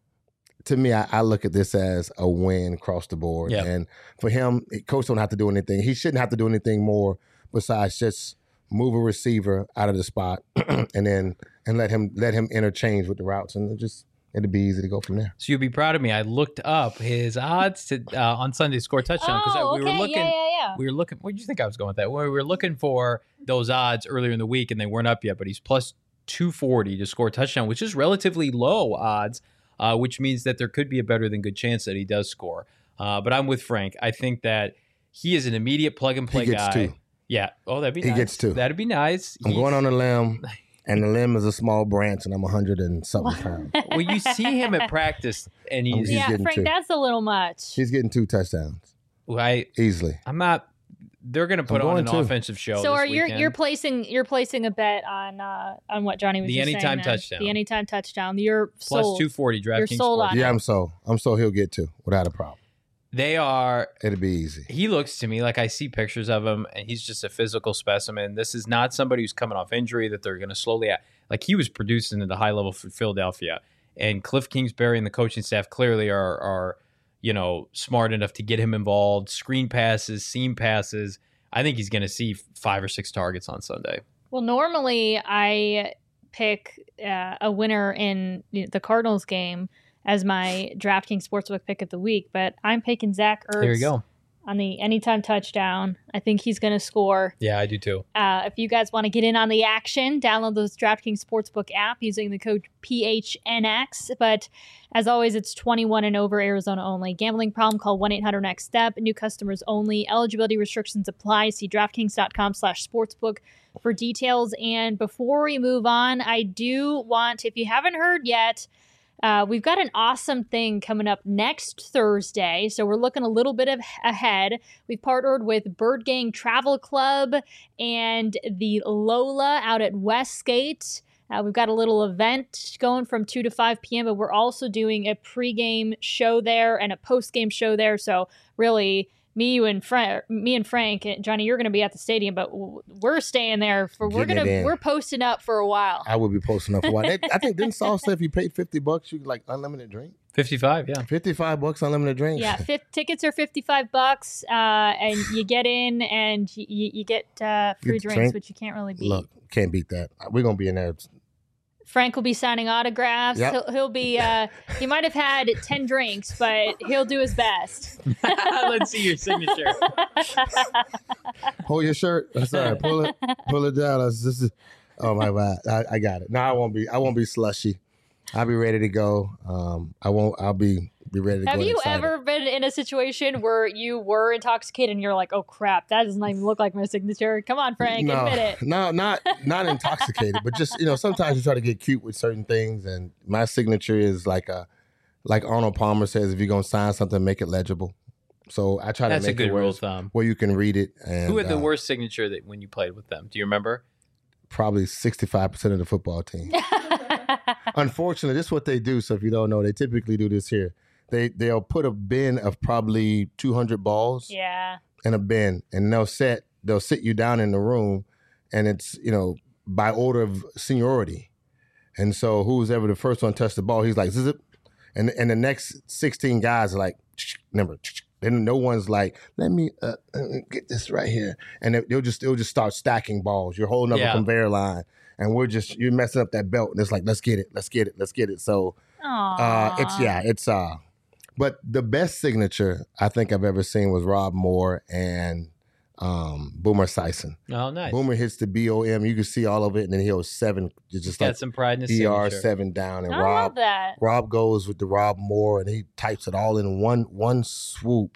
To me, I, I look at this as a win across the board. Yep. And for him, coach don't have to do anything. He shouldn't have to do anything more besides just move a receiver out of the spot and then and let him let him interchange with the routes, and it just it'd be easy to go from there. So you'll be proud of me. I looked up his odds to uh, on Sunday to score a touchdown because Oh, we okay. were looking. Yeah, yeah, yeah. We were looking. Where did you think I was going with that? Well, we were looking for those odds earlier in the week, and they weren't up yet. But he's plus two forty to score a touchdown, which is relatively low odds. Uh, which means that there could be a better than good chance that he does score. Uh, but I'm with Frank. I think that he is an immediate plug and play He gets guy. two. Yeah. Oh, that'd be He nice. gets two. That'd be nice. I'm He- going on a limb, and the limb is a small branch, and I'm a hundred and something pounds. Well, you see him at practice, and he's. He's yeah, getting Frank, two. that's a little much. He's getting two touchdowns I. easily. I'm not. They're going to put I'm on going an to. offensive show. So this are you weekend. you're placing you're placing a bet on uh, on what Johnny was The just saying anytime then. touchdown. The anytime touchdown. You're plus sold. two forty You're DraftKings sold Sports. on it. Yeah, I'm so I'm so he'll get two without a problem. They are. It'll be easy. He looks to me like I see pictures of him, and he's just a physical specimen. This is not somebody who's coming off injury that they're going to slowly. Like he was producing at a high level for Philadelphia, and Cliff Kingsbury and the coaching staff clearly are are you know smart enough to get him involved. Screen passes, seam passes. I think he's going to see five or six targets on Sunday. Well, normally I pick uh, a winner in the Cardinals game as my DraftKings Sportsbook pick of the week, but I'm picking Zach Ertz There you go. on the anytime touchdown. I think he's going to score. Yeah, I do too. Uh, if you guys want to get in on the action, download the DraftKings Sportsbook app using the code P H N X. But as always, it's twenty-one and over, Arizona only. Gambling problem, call one eight hundred next step. New customers only. Eligibility restrictions apply. See DraftKings.com slash sportsbook for details. And before we move on, I do want, if you haven't heard yet, Uh, we've got an awesome thing coming up next Thursday, so we're looking a little bit of ahead. We've partnered with Bird Gang Travel Club and the Lola out at Westgate. Uh, we've got a little event going from two to five p.m., but we're also doing a pregame show there and a postgame show there. So really, me, you, and Frank, me and Frank, and Johnny, you're going to be at the stadium, but w- we're staying there for. We're Getting gonna it in. we're posting up for a while. I would be posting up for a while. They, I think didn't Saul say if you paid fifty bucks, you could like unlimited drink? fifty-five, yeah. Fifty-five bucks unlimited drink. Yeah, fifth, tickets are fifty-five bucks, uh, and you get in and you, you get uh, free Get drinks, drink. which you can't really beat. Look, can't beat that. We're gonna be in there. Frank will be signing autographs. Yep. He'll, he'll be. Uh, he might have had ten drinks, but he'll do his best. Let's see your signature. Hold your shirt. That's all right. Pull it, pull it down. That's, this is, oh my God, I, I got it. No, I won't be. I won't be slushy. I'll be ready to go. Um, I won't. I'll be be ready to go. Have and you excited. ever been in a situation where you were intoxicated and you're like, "Oh crap, that doesn't even look like my signature"? Come on, Frank, no, admit it. No, not not intoxicated, but just you know, sometimes you try to get cute with certain things, and my signature is like a like Arnold Palmer says, if you're gonna sign something, make it legible. So I try That's to a make good it where, rule of thumb. where you can read it. And Who had the uh, worst signature that when you played with them? Do you remember? Probably sixty-five percent of the football team. Unfortunately, this is what they do. So if you don't know, they typically do this here. They they'll put a bin of probably two hundred balls Yeah. in a bin, and they'll set they'll sit you down in the room, and it's you know by order of seniority, and so who's ever the first one to touch the ball, he's like zip, and and the next sixteen guys are like number. Then no one's like, let me uh, uh, get this right here, and they- they'll just they'll just start stacking balls. You're holding up Yeah. a conveyor line, and we're just you're messing up that belt, and it's like let's get it, let's get it, let's get it. So uh, it's yeah, it's uh, but the best signature I think I've ever seen was Rob Moore and um, Boomer Sison. Oh, nice. Boomer hits the B O M, you can see all of it, and then he'll seven, it's just Got like some pride in his E R signature. seven down, and I love Rob that. Rob goes with the Rob Moore, and he types it all in one one swoop.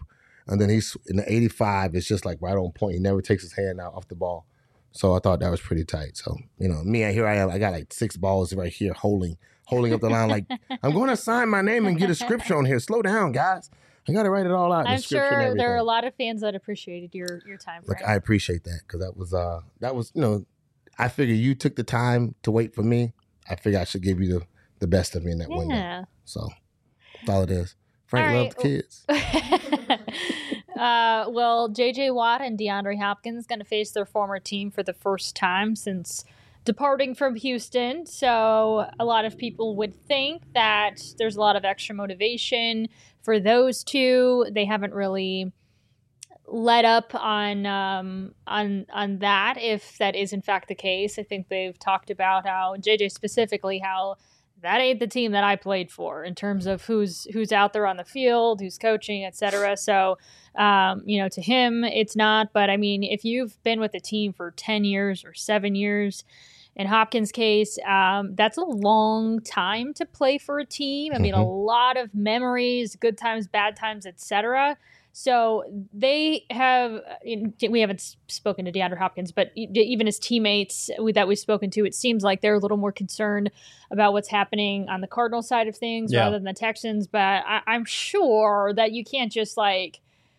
And then he's in the eighty-five, it's just like right on point. He never takes his hand out off the ball. So I thought that was pretty tight. So, you know, me, here I am. I got like six balls right here holding holding up the line like, I'm going to sign my name and get a scripture on here. Slow down, guys. I got to write it all out. I'm sure there are a lot of fans that appreciated your your time. Look, I appreciate that because that was, uh, that was, you know, I figured you took the time to wait for me. I figure I should give you the, the best of me in that yeah. window. So that's all it is. Frank all loves right. kids. uh, well, J J Watt and DeAndre Hopkins going to face their former team for the first time since departing from Houston. So a lot of people would think that there's a lot of extra motivation for those two. They haven't really let up on um, on on that, if that is in fact the case. I think they've talked about how, J J specifically, how that ain't the team that I played for in terms of who's who's out there on the field, who's coaching, et cetera. So, um, you know, to him, it's not. But, I mean, if you've been with a team for ten years or seven years, in Hopkins' case, um, that's a long time to play for a team. I mean, mm-hmm. a lot of memories, good times, bad times, et cetera. So they have, we haven't spoken to DeAndre Hopkins, but even his teammates that we've spoken to, it seems like they're a little more concerned about what's happening on the Cardinals side of things yeah. rather than the Texans. But I, I'm sure that you can't just like,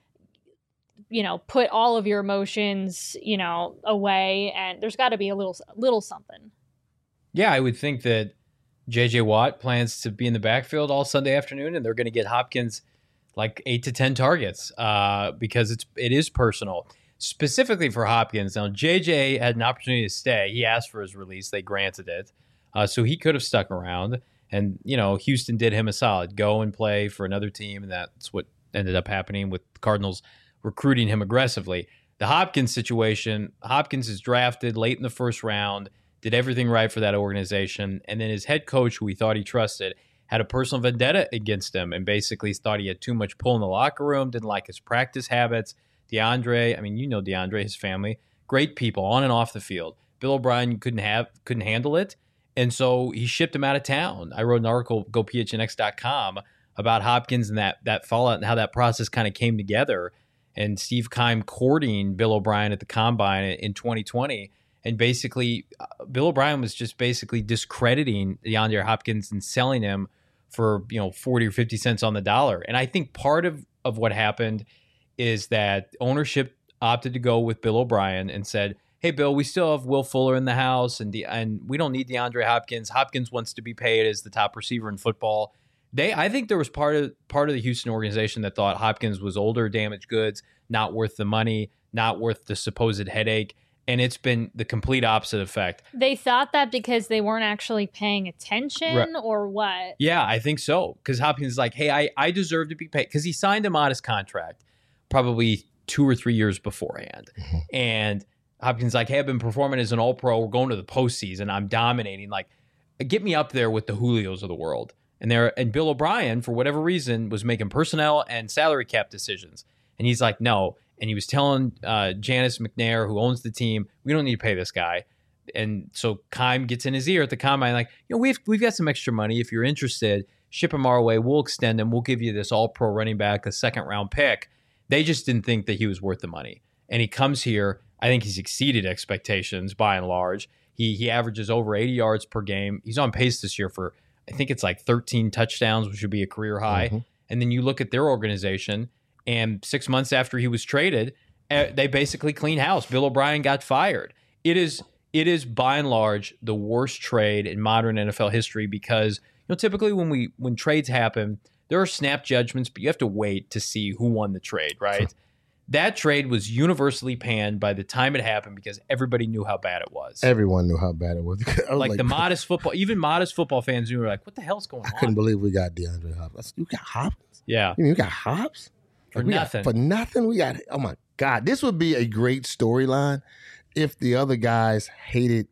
you know, put all of your emotions, you know, away, and there's got to be a little, little something. Yeah, I would think that J J Watt plans to be in the backfield all Sunday afternoon, and they're going to get Hopkins like eight to ten targets uh, because it's it is personal, specifically for Hopkins. Now, J J had an opportunity to stay. He asked for his release. They granted it. Uh, so he could have stuck around. And, you know, Houston did him a solid. Go and play for another team, and that's what ended up happening with the Cardinals recruiting him aggressively. The Hopkins situation, Hopkins is drafted late in the first round, did everything right for that organization, and then his head coach, who he thought he trusted, had a personal vendetta against him and basically thought he had too much pull in the locker room, didn't like his practice habits. DeAndre, I mean, you know DeAndre, his family, great people on and off the field. Bill O'Brien couldn't have couldn't handle it, and so he shipped him out of town. I wrote an article, go P H N X dot com, about Hopkins and that that fallout and how that process kind of came together. And Steve Keim courting Bill O'Brien at the Combine in twenty twenty. And basically, uh, Bill O'Brien was just basically discrediting DeAndre Hopkins and selling him for, you know, forty or fifty cents on the dollar. And I think part of, of what happened is that ownership opted to go with Bill O'Brien and said, hey, Bill, we still have Will Fuller in the house, and the, and we don't need DeAndre Hopkins. Hopkins wants to be paid as the top receiver in football. They, I think there was part of part of the Houston organization that thought Hopkins was older, damaged goods, not worth the money, not worth the supposed headache, and it's been the complete opposite effect. They thought that because they weren't actually paying attention, right. or what? Yeah, I think so, because Hopkins is like, hey, I, I deserve to be paid, because he signed a modest contract probably two or three years beforehand, mm-hmm. and Hopkins is like, hey, I've been performing as an all-pro, we're going to the postseason, I'm dominating, like, get me up there with the Julios of the world. And there, and Bill O'Brien, for whatever reason, was making personnel and salary cap decisions. And he's like, no. And he was telling uh, Janice McNair, who owns the team, we don't need to pay this guy. And so Keim gets in his ear at the Combine, like, you know, we've we've got some extra money. If you're interested, ship him our way. We'll extend him. We'll give you this all-pro running back, a second-round pick. They just didn't think that he was worth the money. And he comes here. I think he's exceeded expectations by and large. He he averages over eighty yards per game. He's on pace this year for, I think it's like thirteen touchdowns, which would be a career high. Mm-hmm. And then you look at their organization, and six months after he was traded, uh, they basically clean house. Bill O'Brien got fired. It is, it is by and large the worst trade in modern N F L history because, you know, typically when we when trades happen, there are snap judgments, but you have to wait to see who won the trade, right? That trade was universally panned by the time it happened because everybody knew how bad it was. Everyone knew how bad it was. was like, like the modest football, even modest football fans knew, were like, what the hell's going I on? I couldn't believe we got DeAndre Hopkins. You got Hopkins? Yeah. You mean you got Hobbs? For like nothing. Got, for nothing? We got, oh my God. This would be a great storyline if the other guys hated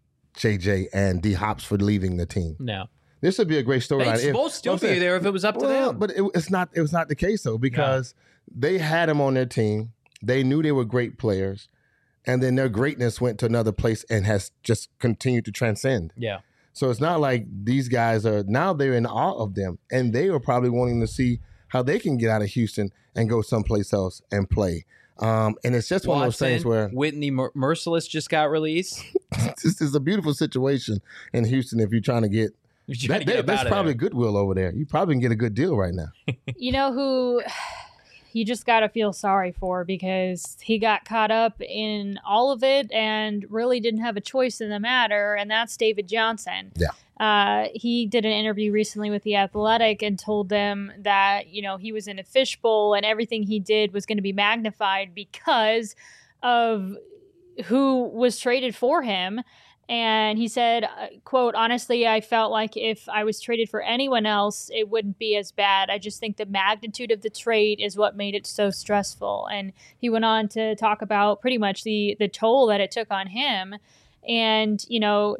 J J and D Hops for leaving the team. No. This would be a great storyline. They'd both still be there if it was up to well, them. But it, it's not, it was not the case, though, because no. they had him on their team. They knew they were great players, and then their greatness went to another place and has just continued to transcend. Yeah. So it's not like these guys are, now they're in awe of them, and they were probably wanting to see how they can get out of Houston and go someplace else and play. Um, and it's just Watson, one of those things where Whitney Mer- Merciless just got released. this is a beautiful situation in Houston if you're trying to get. You're trying That, to get that, up that's out of probably there. goodwill over there. You probably can get a good deal right now. You know who you just got to feel sorry for because he got caught up in all of it and really didn't have a choice in the matter, and that's David Johnson. Yeah. Uh, he did an interview recently with The Athletic and told them that, you know, he was in a fishbowl and everything he did was going to be magnified because of who was traded for him. And he said, uh, quote, honestly, I felt like if I was traded for anyone else, it wouldn't be as bad. I just think the magnitude of the trade is what made it so stressful. And he went on to talk about pretty much the, the toll that it took on him. And, you know,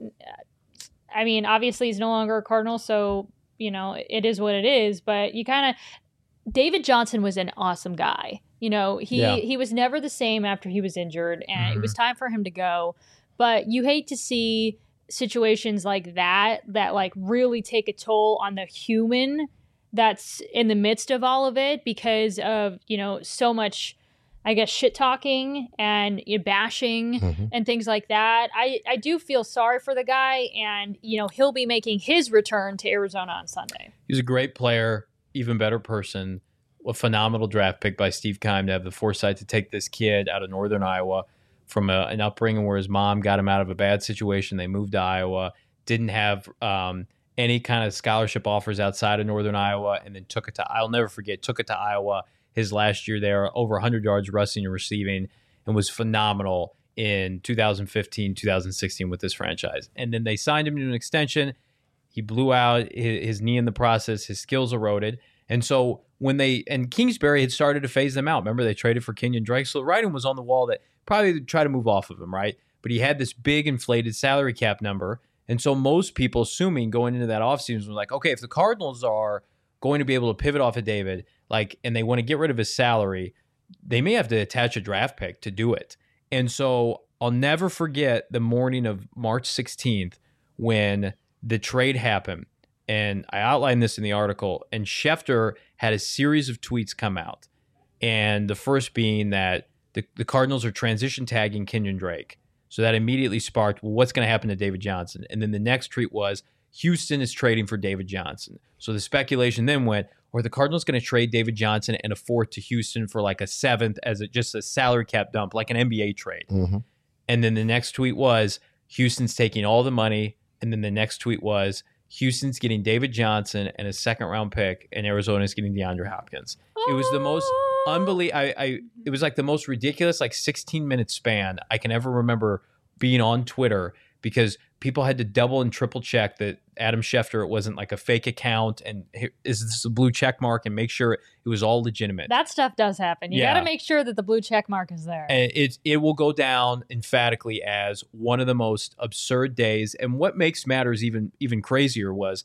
I mean, obviously he's no longer a Cardinal, so, you know, it is what it is. But you kind of, David Johnson was an awesome guy. You know, he, Yeah. he was never the same after he was injured, and Mhm. it was time for him to go. But you hate to see situations like that, that like really take a toll on the human that's in the midst of all of it because of, you know, so much, I guess, shit talking and you know, bashing Mhm. and things like that. I, I do feel sorry for the guy, and, you know, he'll be making his return to Arizona on Sunday. He's a great player, even better person. A phenomenal draft pick by Steve Keim to have the foresight to take this kid out of northern Iowa from a, an upbringing where his mom got him out of a bad situation. They moved to Iowa, didn't have um, any kind of scholarship offers outside of northern Iowa, and then took it to, I'll never forget, took it to Iowa his last year there, over one hundred yards rushing and receiving, and was phenomenal in two thousand fifteen, two thousand sixteen with this franchise. And then they signed him to an extension. He blew out his, his knee in the process. His skills eroded. And so when they, and Kingsbury had started to phase them out. Remember, they traded for Kenyon Drake. So the writing was on the wall that probably try to move off of him, right? But he had this big inflated salary cap number. And so most people assuming going into that offseason was like, okay, if the Cardinals are going to be able to pivot off of David, like, and they want to get rid of his salary, they may have to attach a draft pick to do it. And so I'll never forget the morning of March sixteenth when the trade happened. And I outlined this in the article, and Schefter had a series of tweets come out. And the first being that the, the Cardinals are transition tagging Kenyon Drake. So that immediately sparked, well, what's going to happen to David Johnson? And then the next tweet was, Houston is trading for David Johnson. So the speculation then went, are the Cardinals going to trade David Johnson and a fourth to Houston for like a seventh as a, just a salary cap dump, like an N B A trade? Mm-hmm. And then the next tweet was, Houston's taking all the money. And then the next tweet was, Houston's getting David Johnson and a second round pick, and Arizona's getting DeAndre Hopkins. It was the most unbelievable. I, I it was like the most ridiculous, like sixteen minute span I can ever remember being on Twitter, because people had to double and triple check that Adam Schefter, it wasn't like a fake account, and here, is this a blue check mark, and make sure it was all legitimate. That stuff does happen. You Yeah. got to make sure that the blue check mark is there. And it it will go down emphatically as one of the most absurd days. And what makes matters even even crazier was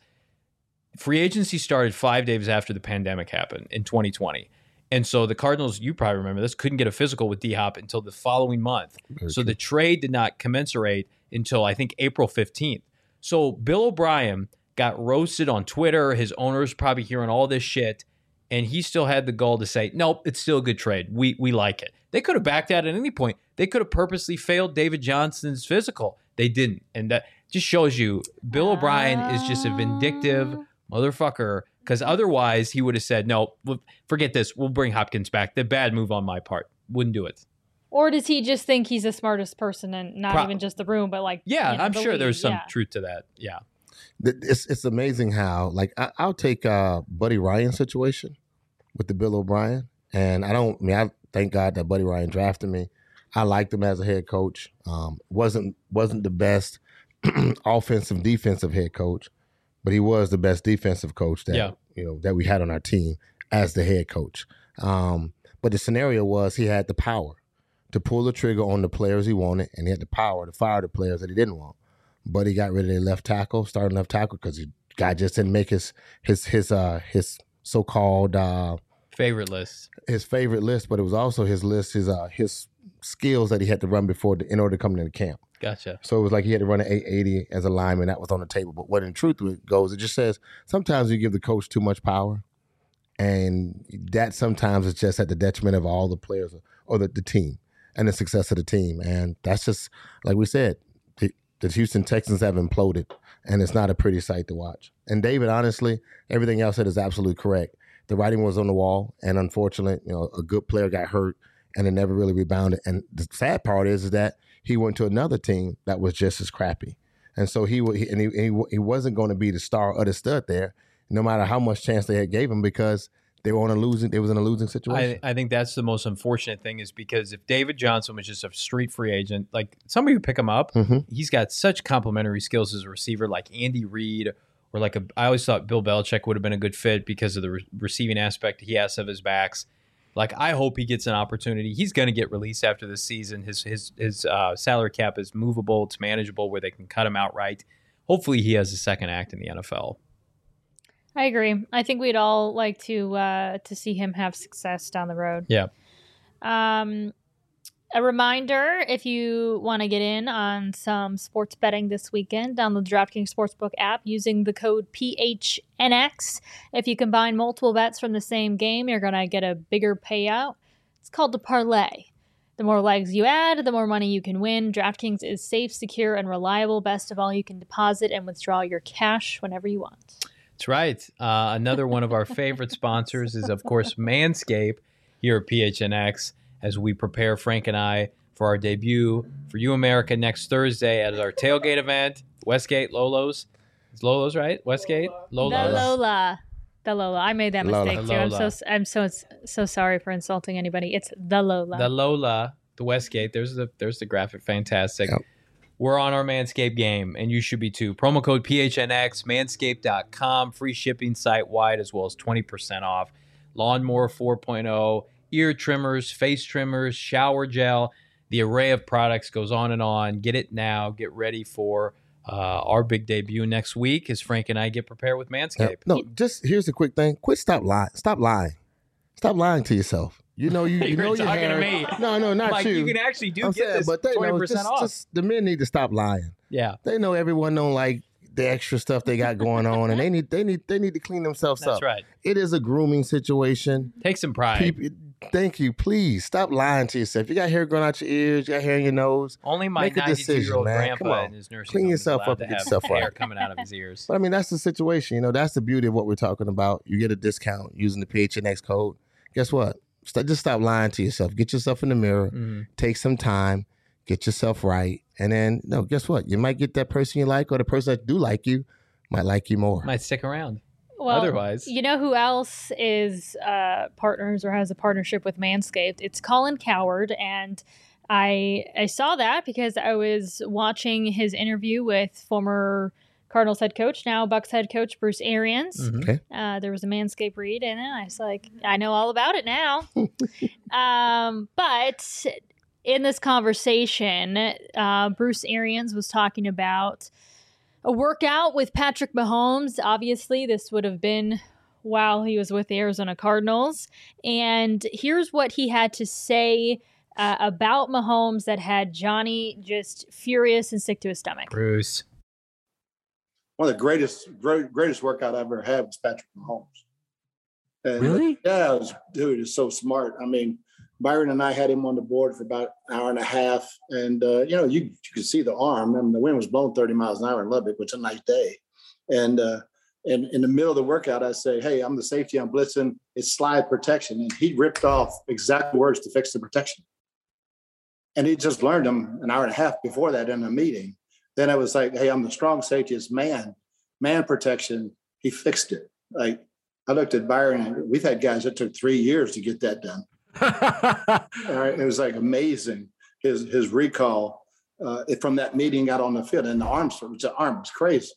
free agency started five days after the pandemic happened in twenty twenty. And so the Cardinals, you probably remember this, couldn't get a physical with D-Hop until the following month. Very so true. the trade did not commensurate until, I think, April fifteenth. So Bill O'Brien got roasted on Twitter. His owners probably hearing all this shit. And he still had the gall to say, nope, it's still a good trade. We we like it. They could have backed out at any point. They could have purposely failed David Johnson's physical. They didn't. And that just shows you Bill O'Brien is just a vindictive motherfucker, because otherwise he would have said, no, forget this. We'll bring Hopkins back. The bad move on my part. Wouldn't do it. Or does he just think he's the smartest person and not Pro- even just the room, but like, Yeah, you know, I'm the sure league? there's some Yeah. truth to that. Yeah. It's it's amazing how, like, I, I'll take uh, Buddy Ryan's situation with the Bill O'Brien, and I don't I mean I thank God that Buddy Ryan drafted me. I liked him as a head coach. Um, wasn't wasn't the best offensive defensive head coach, but he was the best defensive coach that Yeah. you know that we had on our team as the head coach. Um, but the scenario was he had the power to pull the trigger on the players he wanted, and he had the power to fire the players that he didn't want. But he got rid of their left tackle, starting left tackle, because the guy just didn't make his his his uh his so-called uh, Favorite list. his favorite list, but it was also his list, his uh his skills that he had to run before the, in order to come into camp. Gotcha. So it was like he had to run an eight eighty as a lineman. That was on the table. But what in truth it goes, it just says sometimes you give the coach too much power, And that sometimes is just at the detriment of all the players or the, the team and the success of the team. And that's just, like we said, the, the Houston Texans have imploded, and it's not a pretty sight to watch. And David, honestly, everything else said is absolutely correct. The writing was on the wall, and unfortunately, you know, a good player got hurt, and it never really rebounded. And the sad part is, is that he went to another team that was just as crappy. And so he, he and he, he, he wasn't going to be the star or the stud there, no matter how much chance they had gave him, because they were on a losing. They was in a losing situation. I, I think that's the most unfortunate thing, is because if David Johnson was just a street free agent, like somebody would pick him up. Mm-hmm. He's got such complementary skills as a receiver, like Andy Reid, or like a. I always thought Bill Belichick would have been a good fit because of the re- receiving aspect he has of his backs. Like, I hope he gets an opportunity. He's going to get released after this season. His his his uh, salary cap is movable. It's manageable where they can cut him outright. Hopefully, he has a second act in the N F L. I agree. I think we'd all like to uh, to see him have success down the road. Yeah. Um, a reminder, if you want to get in on some sports betting this weekend, download the DraftKings Sportsbook app using the code P H N X. If you combine multiple bets from the same game, you're going to get a bigger payout. It's called the parlay. The more legs you add, the more money you can win. DraftKings is safe, secure, and reliable. Best of all, you can deposit and withdraw your cash whenever you want. That's right. Uh, another one of our favorite sponsors is, of course, Manscaped here at P H N X, as we prepare, Frank and I, for our debut for You America next Thursday at our tailgate event, Westgate, Lolo's. It's Lolo's, right? Westgate? Lolo's. The Lola. The Lola. I made that Lola. mistake too. I'm Lola. so I'm so so sorry for insulting anybody. It's the Lola. The Lola, the Westgate. There's the there's the graphic. Fantastic. Yep. We're on our Manscaped game, and you should be too. Promo code P H N X, manscaped dot com, free shipping site-wide, as well as twenty percent off. Lawnmower four point oh, ear trimmers, face trimmers, shower gel. The array of products goes on and on. Get it now. Get ready for uh, our big debut next week as Frank and I get prepared with Manscaped. Yep. No, just here's the quick thing. Quit. Stop lying. Stop lying. Stop lying to yourself. You know you, you You're know your talking hair. to me. No, no, not Like, you. you can actually do I'm get saying, this but they twenty know, percent just, off. just the men need to stop lying. Yeah, They know everyone don't like the extra stuff they got going on, and they need they need they need to clean themselves that's up. right. It is a grooming situation. Take some pride. People, thank you. Please stop lying to yourself. You got hair growing out your ears. You got hair in your nose. Only my Make a ninety-two-year-old decision, man. Come grandpa on. in his nursing Clean home yourself is allowed up and to get have yourself hair right. coming out of his ears. But I mean, that's the situation. You know, that's the beauty of what we're talking about. You get a discount using the P H N X code. Guess what? St- just stop lying to yourself. Get yourself in the mirror. Mhm. Take some time. Get yourself right. And then, no, guess what? You might get that person you like, or the person that do like you might like you more. Might stick around. Well, Otherwise- you know who else is uh, partners or has a partnership with Manscaped? It's Colin Cowherd, and I I saw that because I was watching his interview with former Cardinals head coach, now Bucs head coach Bruce Arians. Mhm. Okay. Uh, there was a Manscaped read in it. I was like, I know all about it now. um, but in this conversation, uh, Bruce Arians was talking about a workout with Patrick Mahomes. Obviously, this would have been while he was with the Arizona Cardinals. And here's what he had to say uh, about Mahomes that had Johnny just furious and sick to his stomach. Bruce. One of the greatest, great, greatest workout I ever had was Patrick Mahomes. And Really? Yeah, it was, dude, it's so smart. I mean, Byron and I had him on the board for about an hour and a half, and uh, you know, you, you could see the arm. I mean, the wind was blowing thirty miles an hour in Lubbock, which is a nice day. And uh, and in the middle of the workout, I say, "Hey, I'm the safety. I'm blitzing. It's slide protection," and he ripped off exact words to fix the protection. And he just learned them an hour and a half before that in a meeting. Then I was like, "Hey, I'm the strong safety. It's man, man protection." He fixed it. Like I looked at Byron, and we've had guys that took three years to get that done. All right, it was like amazing. His his recall uh, from that meeting got on the field, and the arms, the arm was crazy.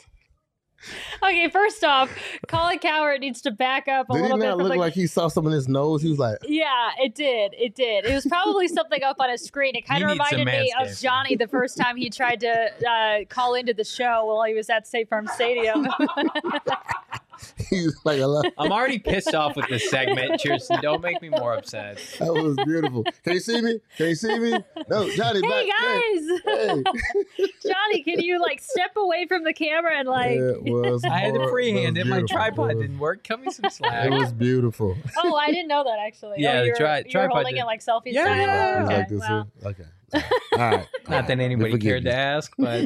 Okay, first off, Colin Cowherd needs to back up a Did he little bit. not From look the- like he saw something in his nose? He was like, Yeah, it did. It did. It was probably something up on his screen. It kind You of need some reminded me of Manscaped. Johnny the first time he tried to uh, call into the show while he was at State Farm Stadium. He's like, I love. I'm already pissed off with this segment. Cheerson, don't make me more upset. That was beautiful. Can you see me? Can you see me? No, Johnny. Hey back. guys, Hey. Johnny, can you like step away from the camera and like? Yeah, it was I had to hor- freehand it it. was My beautiful. tripod It was- didn't work. Cut me some slack. It was beautiful. Oh, I didn't know that actually. Yeah, oh, the you're, tri- you're tripod holding did- it like selfie Yeah, style. yeah, It's Okay, like this, well. okay. All right. Not that anybody We forgive cared you. to ask, but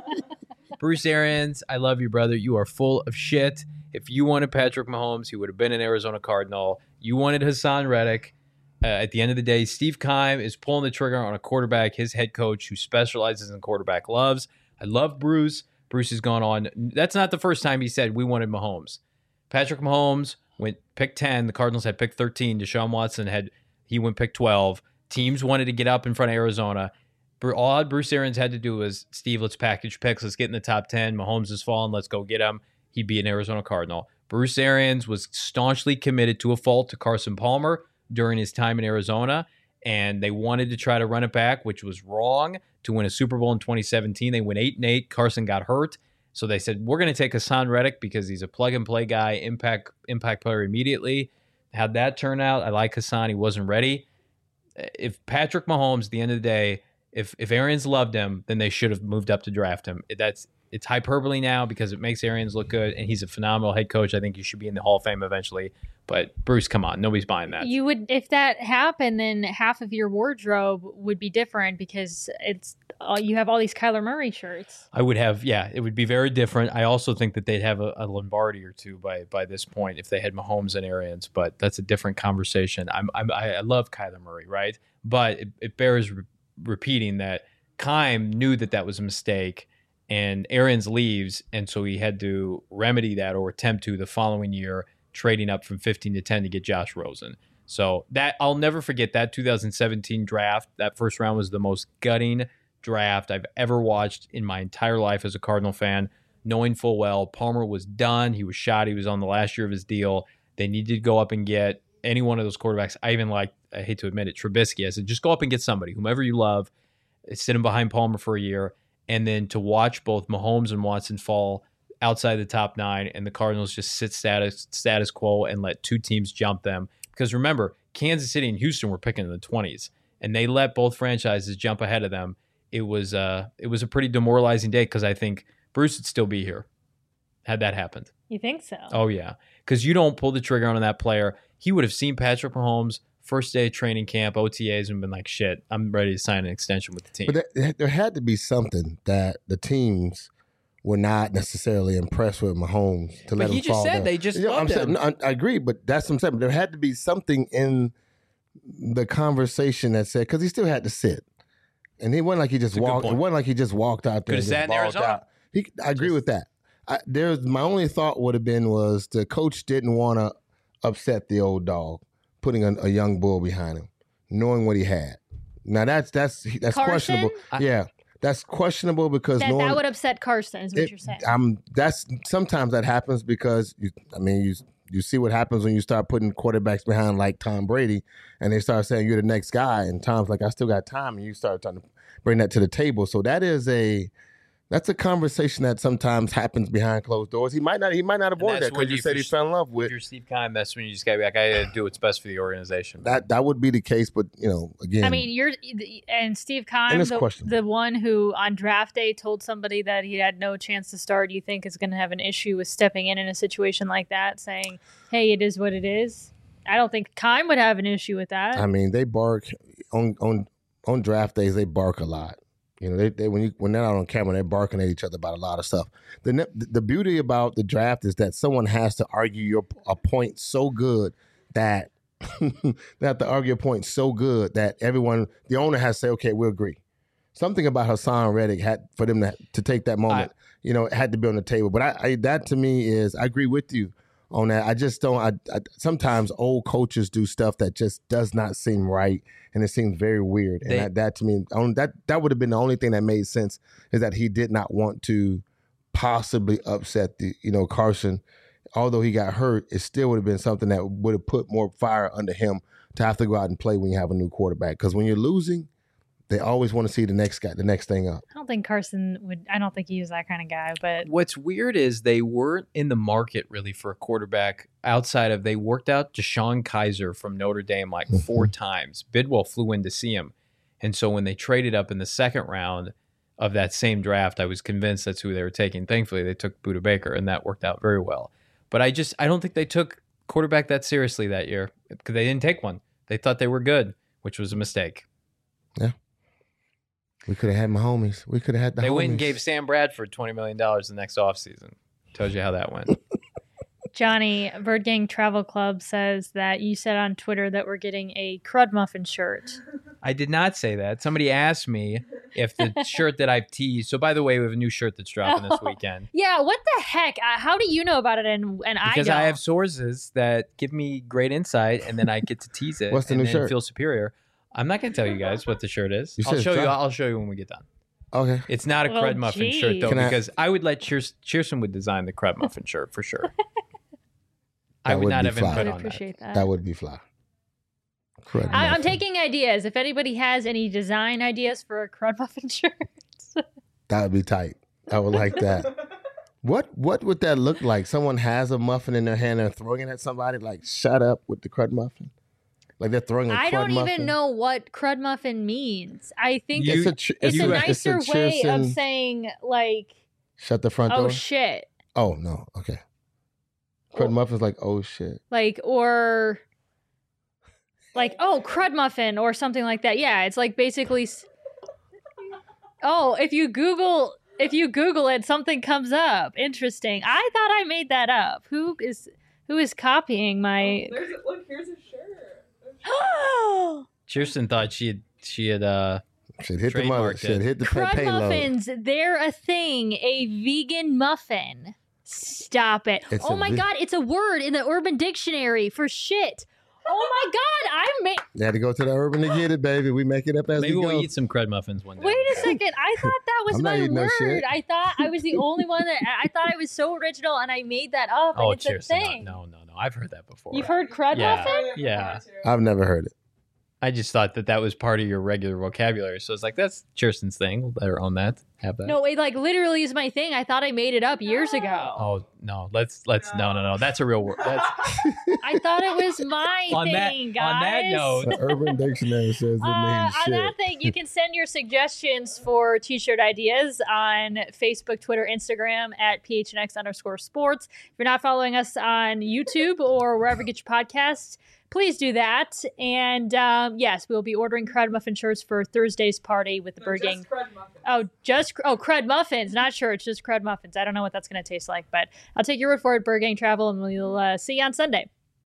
Bruce Arians, I love you, brother. You are full of shit. If you wanted Patrick Mahomes, he would have been an Arizona Cardinal. You wanted Hassan Reddick. Uh, at the end of the day, Steve Keim is pulling the trigger on a quarterback, his head coach who specializes in quarterback loves. I love Bruce. Bruce has gone on. That's not the first time he said we wanted Mahomes. Patrick Mahomes went pick ten. The Cardinals had pick thirteen. Deshaun Watson had, he went pick twelve. Teams wanted to get up in front of Arizona. All Bruce Arians had to do was, Steve, let's package picks. Let's get in the top ten. Mahomes has fallen. Let's go get him. He'd be an Arizona Cardinal. Bruce Arians was staunchly committed to a fault to Carson Palmer during his time in Arizona, and they wanted to try to run it back, which was wrong, to win a Super Bowl in twenty seventeen. They went eight and eight. Carson got hurt. So they said, we're going to take Hassan Reddick because he's a plug-and-play guy, impact impact player immediately. How'd that turn out? I like Hassan. He wasn't ready. If Patrick Mahomes, at the end of the day, if if Arians loved him, then they should have moved up to draft him. That's It's hyperbole now because it makes Arians look good, and he's a phenomenal head coach. I think he should be in the Hall of Fame eventually. But Bruce, come on, nobody's buying that. You would, if that happened, then half of your wardrobe would be different because it's uh, you have all these Kyler Murray shirts. I would have, yeah, it would be very different. I also think that they'd have a, a Lombardi or two by by this point if they had Mahomes and Arians, but that's a different conversation. I'm, I'm I love Kyler Murray, right? But it, it bears re- repeating that Keim knew that that was a mistake, and Arians leaves, and so he had to remedy that or attempt to the following year, trading up from fifteen to ten to get Josh Rosen. So that I'll never forget that two thousand seventeen draft. That first round was the most gutting draft I've ever watched in my entire life as a Cardinal fan, knowing full well Palmer was done. He was shot. He was on the last year of his deal. They needed to go up and get any one of those quarterbacks. I even like, I hate to admit it, Trubisky. I said, just go up and get somebody, whomever you love, sit him behind Palmer for a year. And then to watch both Mahomes and Watson fall outside the top nine and the Cardinals just sit status status quo and let two teams jump them. Because remember, Kansas City and Houston were picking in the twenties, and they let both franchises jump ahead of them. It was uh, it was a pretty demoralizing day because I think Bruce would still be here had that happened. You think so? Oh, yeah. Because you don't pull the trigger on that player. He would have seen Patrick Mahomes first day of training camp, O T As, and been like, shit, I'm ready to sign an extension with the team. But there, there had to be something that the teams were not necessarily impressed with Mahomes to let But him he just fall said down. they just You know, I'm loved saying, him. no, I, I agree, but that's what I'm saying. There had to be something in the conversation that said, because he still had to sit. And it wasn't like he just That's a good walked. It point. wasn't like he just walked out there. Could've and sat just in balled Arizona. out. He, I agree Just- with that. I, there's my only thought would have been was the coach didn't want to upset the old dog, putting a, a young bull behind him, knowing what he had. Now that's that's that's Carson? questionable. I- yeah, that's questionable because That, knowing that would upset Carson, is what it- you're saying. I'm that's sometimes that happens because you, I mean you you see what happens when you start putting quarterbacks behind like Tom Brady, and they start saying you're the next guy, and Tom's like I still got time, and you start trying to bring that to the table. So that is a that's a conversation that sometimes happens behind closed doors. He might not he might not have And wanted that's that when because you you said he fish- fell in love If with you're Steve Keim, that's when you just got to be like, I got to do what's best for the organization. that. That would be the case, but you know again. I mean, you're and Steve Keim, And it's the, questionable. the one who on draft day told somebody that he had no chance to start. You think is going to have an issue with stepping in in a situation like that, saying, "Hey, it is what it is." I don't think Keim would have an issue with that. I mean, they bark on on on draft days. They bark a lot. You know, they, they when you when they're out on camera, they're barking at each other about a lot of stuff. The ne- the beauty about the draft is that someone has to argue your a point so good that they have to argue a point so good that everyone, the owner has to say, okay, we agree. Something about Hassan Reddick had for them to, to take that moment. I- you know, it had to be on the table. But I, I that to me is I agree with you on that. I just don't. I, I sometimes old coaches do stuff that just does not seem right, and it seems very weird. And They- that, that to me, on, that that would have been the only thing that made sense is that he did not want to possibly upset the you know Carson. Although he got hurt, it still would have been something that would have put more fire under him to have to go out and play when you have a new quarterback. Because when you're losing, They always want to see the next guy, the next thing up. I don't think Carson would. I don't think he was that kind of guy. But What's weird is they weren't in the market really for a quarterback outside of they worked out Deshaun Kaiser from Notre Dame like four times. Bidwell flew in to see him. And so when they traded up in the second round of that same draft, I was convinced that's who they were taking. Thankfully, they took Budda Baker, and that worked out very well. But I just I don't think they took quarterback that seriously that year because they didn't take one. They thought they were good, which was a mistake. Yeah. We could have had my homies. We could have had the They homies. went and gave Sam Bradford twenty million dollars the next offseason. Tells you how that went. Johnny, Bird Gang Travel Club says that you said on Twitter that we're getting a Crud Muffin shirt. I did not say that. Somebody asked me if the shirt that I've teased. So, by the way, we have a new shirt that's dropping this Oh. weekend. Yeah, what the heck? Uh, how do you know about it and, and I Because don't? I have sources that give me great insight, and then I get to tease it. What's the and new then shirt? feel superior. I'm not going to tell you guys what the shirt is. You said I'll it's show you. dropped. I'll show you when we get done. Okay. It's not a Well, Crud Muffin shirt geez. though, Can I- because I would let Cheers, Cheerson would design the Crud Muffin shirt for sure. I That would would not be have fly. I input would on appreciate that. That would be fly. Crud I, I'm muffin. taking ideas. If anybody has any design ideas for a Crud Muffin shirt, That would be tight. I would like that. What What would that look like? Someone has a muffin in their hand and they're throwing it at somebody. Like, shut up with the crud muffin. Like they're throwing a crud I don't muffin. even know what Crud Muffin means. I think You- It's a, tr- it's you- a it's a nicer way of Cheerson- saying like, Shut the front oh door. shit. Oh no. Okay. Crud Well- muffin's like, oh shit. Like, or like, oh, Crud Muffin or something like that. Yeah, it's like basically. s- Oh, if you Google, if you Google it, something comes up. Interesting. I thought I made that up. Who is who is copying my? There's a, look, here's a shirt. Cheerson thought she had she had uh Shit hit the mother. Trademarked Shit it. hit the pay- Crud payload. muffins, they're a thing. A vegan muffin. Stop it. It's oh a my ve- god, it's a word in the Urban Dictionary for shit. Oh my god, I made. You had to go to the urban to get it, baby. We make it up as maybe we go. we'll eat some Crud Muffins one day. Wait a second. I thought that was I'm not my eating no word. shit. I thought I was the only one that I thought I was so original and I made that up and Oh, it's a Cheerson. thing. No, no, no. I've heard that before. You've heard crud Yeah. muffin? Yeah. I've never heard it. I just thought that that was part of your regular vocabulary. So it's like, that's Cheerson's thing. We'll let her own that. Have that. No, it like literally is my thing. I thought I made it up years ago. Oh, no. Let's, let's, no, no, no. That's a real word. That's, I thought it was my on thing, that, guys. on that note, The urban dictionary says it Uh, means on shit. that thing, you can send your suggestions for t-shirt ideas on Facebook, Twitter, Instagram at P H N X underscore sports. If you're not following us on YouTube or wherever you get your podcasts, please do that. And um, yes, we'll be ordering Crud Muffin shirts for Thursday's party with the No, Bird just Gang. crud muffin. Oh, just oh Crud Muffins, not shirts, just Crud Muffins. I don't know what that's going to taste like, but I'll take your word for it, Bird Gang Travel, and we'll uh, see you on Sunday.